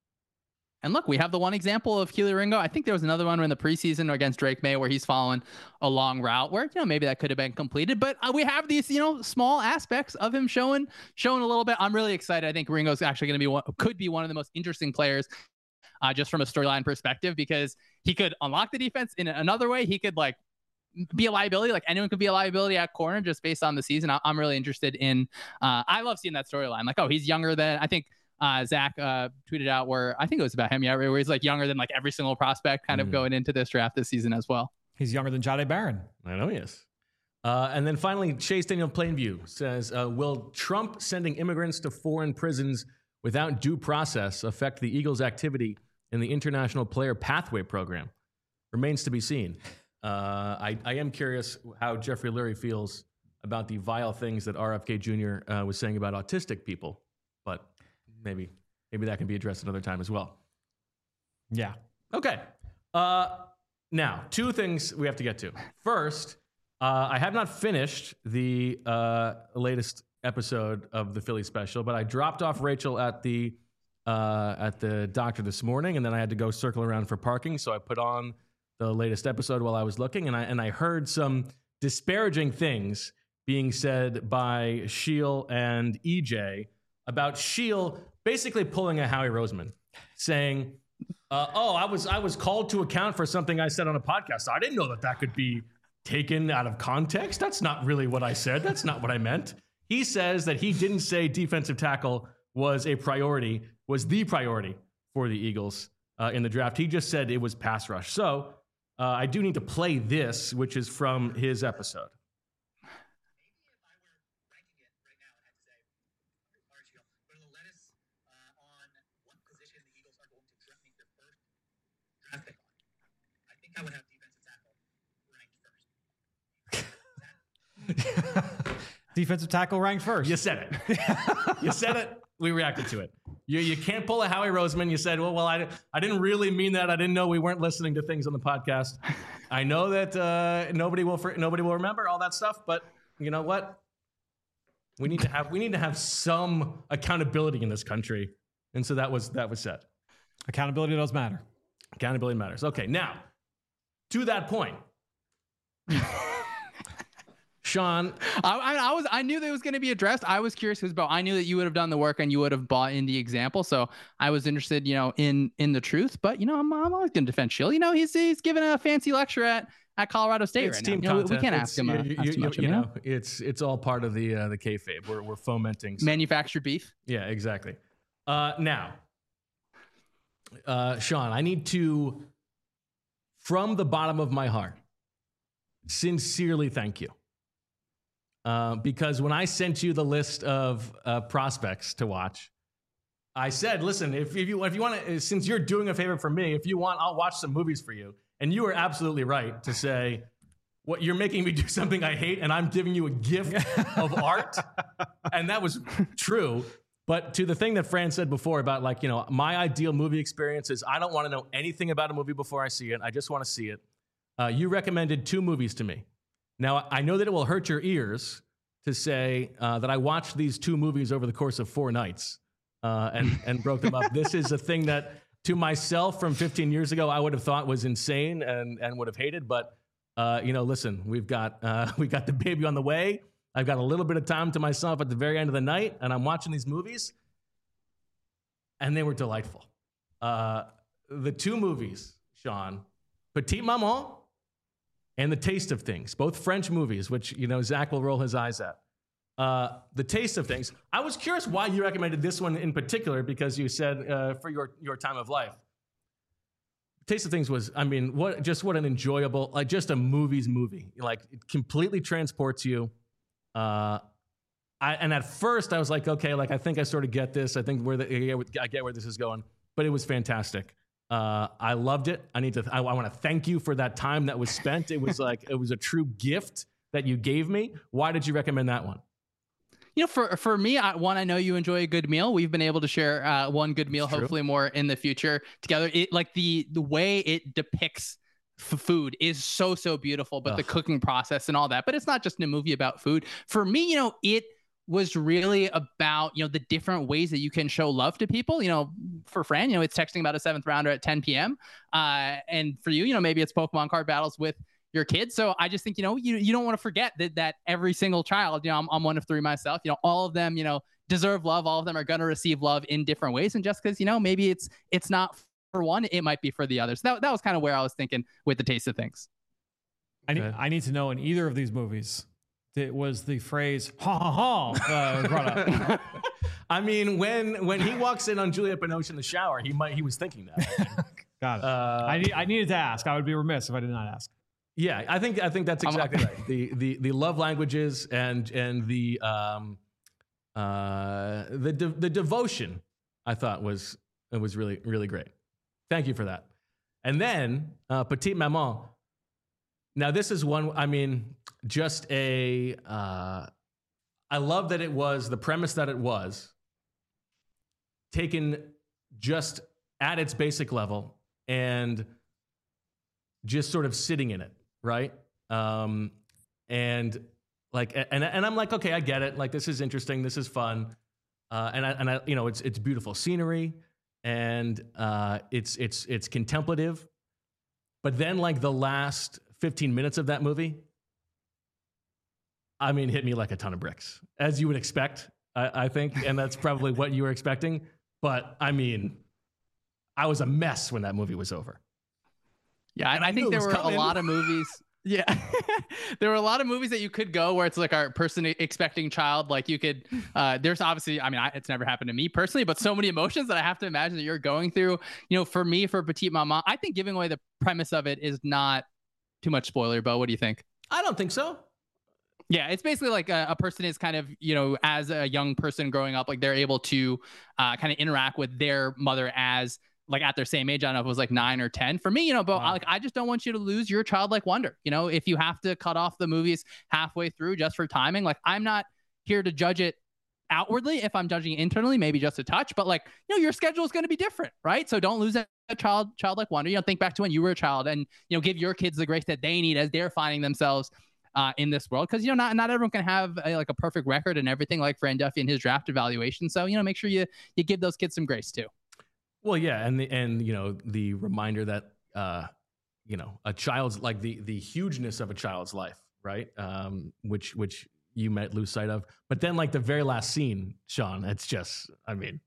And look, we have the one example of Kelee Ringo. I think there was another one in the preseason against Drake May where he's following a long route where, you know, maybe that could have been completed. But uh, we have these, you know, small aspects of him showing showing a little bit. I'm really excited. I think Ringo's actually going to be one, could be one of the most interesting players uh, just from a storyline perspective, because he could unlock the defense in another way. He could like be a liability. Like anyone could be a liability at corner just based on the season. I- I'm really interested in. Uh, I love seeing that storyline. Like, oh, he's younger than I think. Uh, Zach uh, tweeted out where I think it was about him, yeah, where he's like younger than like every single prospect kind mm. of going into this draft this season as well. He's younger than Jahdae Barron. I know he is. Uh, and then finally, Chase Daniel Plainview says, uh, will Trump sending immigrants to foreign prisons without due process affect the Eagles' activity in the International Player Pathway Program? Remains to be seen. Uh, I, I am curious how Jeffrey Lurie feels about the vile things that R F K Junior Uh, was saying about autistic people, but Maybe, maybe that can be addressed another time as well. Yeah. Okay. Uh, now, two things we have to get to. First, uh, I have not finished the uh, latest episode of the Philly special, but I dropped off Rachel at the uh, at the doctor this morning, and then I had to go circle around for parking. So I put on the latest episode while I was looking, and I and I heard some disparaging things being said by Sheil and E J about Sheil basically pulling a Howie Roseman, saying, uh, oh, I was I was called to account for something I said on a podcast. I didn't know that that could be taken out of context. That's not really what I said. That's not what I meant. He says that he didn't say defensive tackle was a priority, was the priority for the Eagles uh, in the draft. He just said it was pass rush. So uh, I do need to play this, which is from his episode. I would have defensive tackle ranked first. Defensive tackle ranked first. You said it. You said it. We reacted to it. You you can't pull a Howie Roseman. You said, well, well, I, I didn't really mean that. I didn't know we weren't listening to things on the podcast. I know that uh, nobody will nobody will remember all that stuff, but you know what? We need to have we need to have some accountability in this country, and so that was that was said. Accountability does matter. Accountability matters. Okay, now. To that point, Sean, I, I, I was I knew that it was going to be addressed. I was curious because, Bo, I knew that you would have done the work and you would have bought in the example. So I was interested, you know, in in the truth. But you know, I'm, I'm always going to defend Sheil. You know, he's he's giving a fancy lecture at at Colorado State it's right team now. You know, we, we can't it's, ask him. Uh, you, ask you, too much you, of you him, know, it's it's all part of the uh, the kayfabe. We're we're fomenting some, manufactured beef. Yeah, exactly. Uh, now, uh, Sean, I need to, from the bottom of my heart, sincerely thank you. Uh, because when I sent you the list of uh, prospects to watch, I said, listen, if, if you if you want to, since you're doing a favor for me, if you want, I'll watch some movies for you. And you were absolutely right to say, what you're making me do something I hate, and I'm giving you a gift of art. And that was true. But to the thing that Fran said before about, like, you know, my ideal movie experience is I don't want to know anything about a movie before I see it. I just want to see it. Uh, you recommended two movies to me. Now, I know that it will hurt your ears to say uh, that I watched these two movies over the course of four nights uh, and, and broke them up. This is a thing that, to myself from fifteen years ago, I would have thought was insane and, and would have hated. But, uh, you know, listen, we've got, uh, we got the baby on the way. I've got a little bit of time to myself at the very end of the night, and I'm watching these movies, and they were delightful. Uh, the two movies, Sean, Petite Maman and The Taste of Things, both French movies, which, you know, Zach will roll his eyes at. Uh, The Taste of Things. I was curious why you recommended this one in particular, because you said uh, for your, your time of life. Taste of Things was, I mean, what just what an enjoyable, like just a movie's movie. Like, it completely transports you. Uh, I, and at first I was like, okay, like, I think I sort of get this. I think where the, I get where this is going, but it was fantastic. Uh, I loved it. I need to, I, I want to thank you for that time that was spent. It was like, it was a true gift that you gave me. Why did you recommend that one? You know, for for me, I, one, I know you enjoy a good meal. We've been able to share uh, one good meal, That's hopefully true. more in the future together. It like the the way it depicts f- food is so so beautiful, but Ugh. the cooking process and all that. But it's not just a movie about food. For me, you know, it was really about, you know, the different ways that you can show love to people. You know, for Fran, you know, it's texting about a seventh rounder at ten p.m. Uh, and for you, you know, maybe it's Pokemon card battles with your kids. So I just think, you know, you, you don't want to forget that that every single child, you know, I'm, I'm one of three myself, you know, all of them, you know, deserve love. All of them are going to receive love in different ways. And just because, you know, maybe it's it's not for one, it might be for the others. That, that was kind of where I was thinking with The Taste of Things. I need, Okay. I need to know in either of these movies, it was the phrase "ha ha ha" uh, brought up. I mean, when when he walks in on Juliette Binoche in the shower, he might he was thinking that. Got it. Uh, I, need, I needed to ask. I would be remiss if I did not ask. Yeah, I think I think that's I'm- exactly right. The the the love languages and and the um uh the de- the devotion, I thought was it was really really great. Thank you for that. And then uh, Petite Maman. Now this is one. I mean, just a. Uh, I love that it was the premise that it was taken just at its basic level and just sort of sitting in it. Right. Um, and like, and, and I'm like, okay, I get it. Like, this is interesting. This is fun. Uh, and I, and I, you know, it's, it's beautiful scenery and, uh, it's, it's, it's contemplative, but then like the last fifteen minutes of that movie, I mean, hit me like a ton of bricks, as you would expect, I, I think. And that's probably what you were expecting. But I mean, I was a mess when that movie was over. Yeah, And I, I I knew think it there was were coming. a lot of movies. Yeah, there were a lot of movies that you could go where it's like our person expecting child. Like you could, uh, there's obviously, I mean, I, it's never happened to me personally, but so many emotions that I have to imagine that you're going through. You know, for me, for Petite Maman, I think giving away the premise of it is not too much spoiler. Bo, what do you think? I don't think so. Yeah, it's basically like a, a person is kind of, you know, as a young person growing up, like they're able to uh, kind of interact with their mother as like at their same age. I don't know if it was like nine or ten for me, you know, but Wow. I, like, I just don't want you to lose your childlike wonder. You know, if you have to cut off the movies halfway through just for timing, like I'm not here to judge it outwardly. If I'm judging it internally, maybe just a touch, but like, you know, your schedule is going to be different, right? So don't lose that child, childlike wonder. You know, think back to when you were a child and, you know, give your kids the grace that they need as they're finding themselves Uh, in this world, because you know not not everyone can have a, like a perfect record and everything like Fran Duffy and his draft evaluation. So you know make sure you you give those kids some grace too. Well, yeah, and the, and you know the reminder that uh, you know a child's like the the hugeness of a child's life, right? Um, which which you might lose sight of, but then like the very last scene, Sean, it's just, I mean,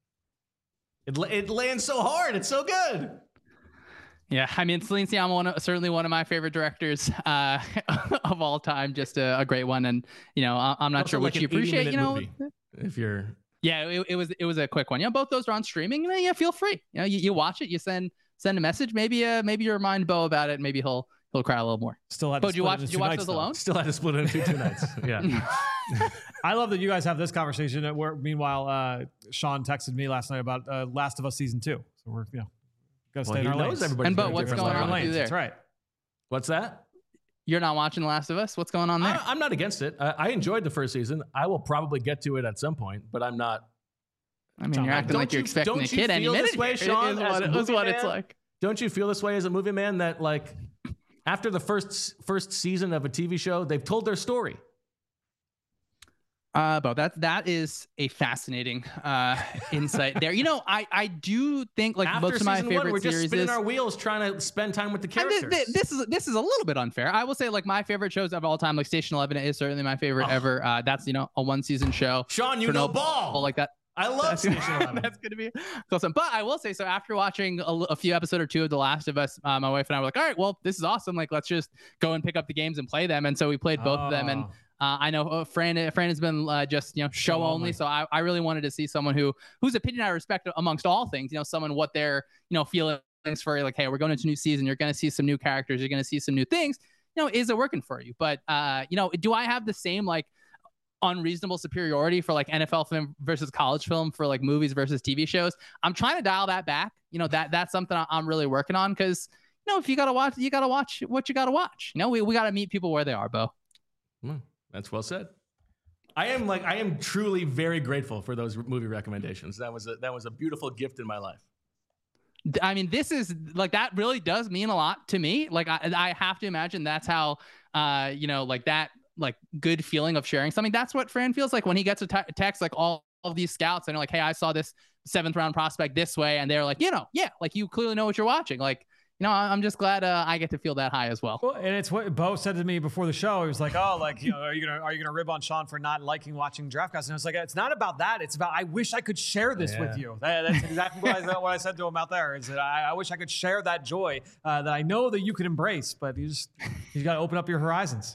it it lands so hard, it's so good. Yeah, I mean Celine Sciamma, one of, certainly one of my favorite directors uh, of all time. Just a, a great one, and you know I, I'm not Also sure like what you an eighty appreciate. minute You know, movie, if you're yeah, it, it was it was a quick one. You know, both those are on streaming. And, yeah, feel free. You know, you, you watch it, you send send a message. Maybe uh maybe you remind Bo about it. Maybe he'll he'll cry a little more. Still had. Bo, to did you split it watch? into Did you two watch nights, those though. alone? still had to split it into two nights. Yeah. I love that you guys have this conversation. That where meanwhile, uh, Sean texted me last night about uh, Last of Us season two. So we're you know gotta Well, stay in he our knows lanes. everybody's And Bo, got a what's different going Stay in life. our on with you lanes. there? That's right. What's that? You're not watching The Last of Us. What's going on there? I, I'm not against it. I, I enjoyed the first season. I will probably get to it at some point, but I'm not. I mean, John, you're acting don't like you're you- expecting don't a you kid any feel minute. this way, here. Sean, Is as what, a is movie what it's man? like. Don't you feel this way as a movie man that like After the first first season of a T V show, they've told their story. Uh, Bo, that that is a fascinating uh, insight there. You know, I I do think like After most of my season favorite one, we're just series spinning is. our wheels trying to spend time with the And characters. this, this is this is a little bit unfair. I will say like my favorite shows of all time, like Station Eleven is certainly my favorite Oh. ever. Uh, that's you know a one season show. Sean, you for know no ball. like that. I love Station Eleven. That's gonna be awesome. But I will say, so after watching a, a few episode or two of The Last of Us, uh, my wife and I were like, all right, well, this is awesome. Like, let's just go and pick up the games and play them. And so we played both of them. And Oh. uh, I know uh, Fran, Fran has been uh, just you know show, Show only. only. So I, I really wanted to see someone who whose opinion I respect amongst all things. You know, someone what they're you know feelings for. Like, hey, we're going into a new season. You're going to see some new characters. You're going to see some new things. You know, is it working for you? But uh, you know, do I have the same like unreasonable superiority for like N F L film versus college film for like movies versus T V shows? I'm trying to dial that back. You know, that that's something I'm really working on because, you know, if you got to watch, you got to watch what you got to watch. You know, we, we got to meet people where they are, Bo. Mm, that's well said. I am like I am truly very grateful for those movie recommendations. That was a, that was a beautiful gift in my life. I mean, this is like that really does mean a lot to me. Like I, I have to imagine that's how, uh, you know, like that, like good feeling of sharing something. That's what Fran feels like when he gets a te- text, like all of these scouts and they're like, hey, I saw this seventh round prospect this way. And they're like, you know, yeah, like you clearly know what you're watching. Like, you know, I'm just glad uh, I get to feel that high as well. Well, and it's what Bo said to me before the show. He was like, "Oh, like you know, are you gonna are you gonna rib on Sean for not liking watching DraftCast?" And I was like, "It's not about that. It's about I wish I could share this Yeah. with you." That, that's exactly what I, what I said to him out there. Is that I, I wish I could share that joy uh, that I know that you could embrace, but you just you got to open up your horizons.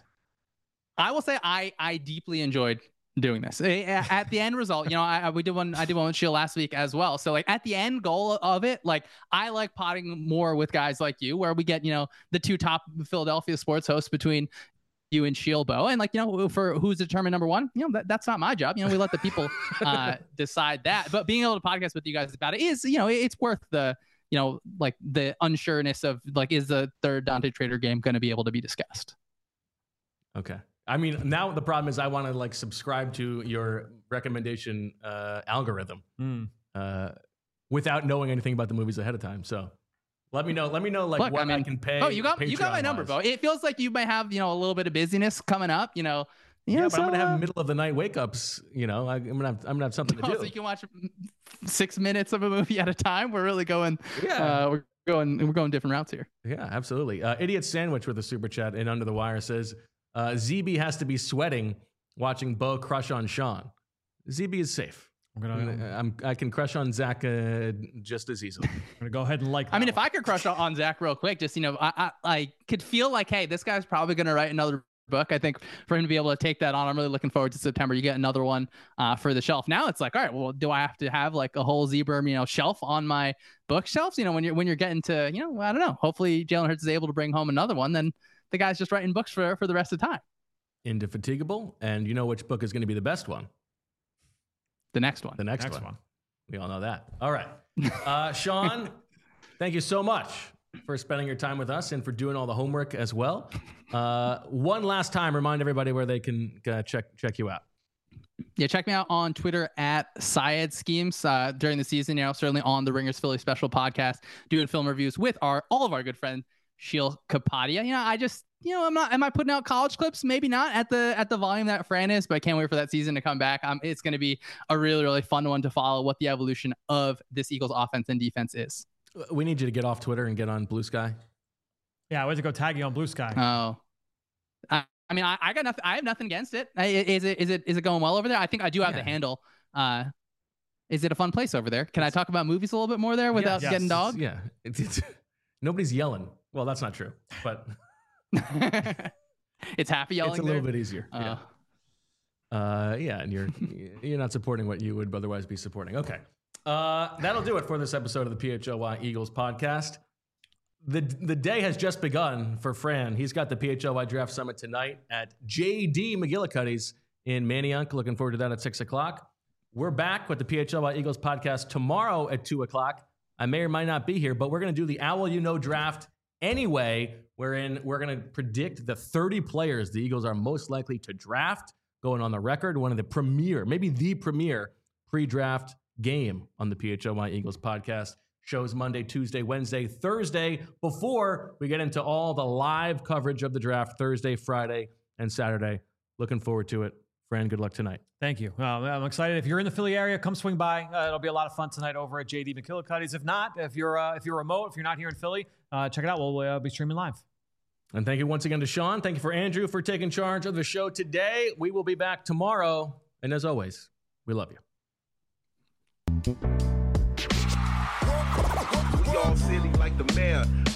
I will say I I deeply enjoyed doing this. At the end result, you know, I, we did one I did one with Shield last week as well. So like at the end goal of it, like I like potting more with guys like you, where we get, you know, the two top Philadelphia sports hosts between you and Shield, Bo, and like, you know, for who's determined number one, you know, that, that's not my job. You know, we let the people uh, decide that. But being able to podcast with you guys about it is, you know, it's worth the, you know, like the unsureness of like, is the third Dante Trader game going to be able to be discussed? Okay. I mean, now the problem is I want to like subscribe to your recommendation uh, algorithm Mm. uh, without knowing anything about the movies ahead of time. So let me know. Let me know like Look, what I I, mean- can pay. Oh, you got you got my number, Patreon-wise. Bo. It feels like you might have, you know, a little bit of busyness coming up, you know. You Yeah, know, but I'm so, gonna uh, have middle of the night wake ups. You know, I, I'm gonna have I'm gonna have something to oh, do. so you can watch six minutes of a movie at a time. We're really going. Yeah. Uh, we're going. We're going different routes here. Yeah, absolutely. Uh, Idiot Sandwich with a super chat and Under the Wire says uh, Z B has to be sweating watching Bo crush on Sean. Z B is safe. I'm gonna I'm, I can crush on Zach uh, just as easily. I'm gonna go ahead and like. I mean, that if I could crush on- on Zach real quick, just you know, I, I I could feel like, hey, this guy's probably going to write another book. I think for him to be able to take that on, I'm really looking forward to September. You get another one uh, for the shelf. Now it's like, all right, well, do I have to have like a whole Zebra, you know, shelf on my bookshelves? You know, when you're when you're getting to, you know, I don't know. Hopefully, Jalen Hurts is able to bring home another one. Then the guy's just writing books for for the rest of the time. Indefatigable, and you know which book is going to be the best one? The next one. The next, next one. one. We all know that. All right. Uh, Sean, thank you so much for spending your time with us and for doing all the homework as well. Uh, one last time, remind everybody where they can uh, check check you out. Yeah, check me out on Twitter at Syed Schemes uh, during the season. You know, certainly on the Ringers Philly Special podcast, doing film reviews with our all of our good friend Sheil Kapadia. You know, I just, you know, I'm not. Am I putting out college clips? Maybe not at the at the volume that Fran is, but I can't wait for that season to come back. Um, it's going to be a really really fun one to follow what the evolution of this Eagles offense and defense is. We need you to get off Twitter and get on Blue Sky. Yeah, I went to go tag you on Blue Sky. Oh. I, I mean, I, I got nothing. I have nothing against it. I, is it is it is it going well over there? I think I do have Yeah. the handle. Uh, is it a fun place over there? Can I talk about movies a little bit more there without Yes. getting Yes. dog? Yeah. It's, it's, nobody's yelling. Well, that's not true, but It's happy yelling. it's a little there? bit easier. Uh, yeah. Uh, yeah, and you're you're not supporting what you would otherwise be supporting. Okay, uh, that'll do it for this episode of the P H L Y Eagles podcast. the The day has just begun for Fran. He's got the P H L Y Draft Summit tonight at J D McGillicuddy's in Manayunk. Looking forward to that at six o'clock. We're back with the P H L Y Eagles podcast tomorrow at two o'clock. I may or might not be here, but we're going to do the Owl You Know draft anyway, wherein we're going to predict the thirty players the Eagles are most likely to draft, going on the record, one of the premier, maybe the premier pre-draft game on the P H L Y Eagles podcast. Shows Monday, Tuesday, Wednesday, Thursday, before we get into all the live coverage of the draft Thursday, Friday, and Saturday. Looking forward to it. Fran, good luck tonight. Thank you. Uh, I'm excited. If you're in the Philly area, come swing by. Uh, it'll be a lot of fun tonight over at J D McKillicuddy's. If not, if you're uh, if you're remote, if you're not here in Philly, uh, check it out. We'll uh, be streaming live. And thank you once again to Sean. Thank you for Andrew for taking charge of the show today. We will be back tomorrow. And as always, we love you. We all silly like the mayor.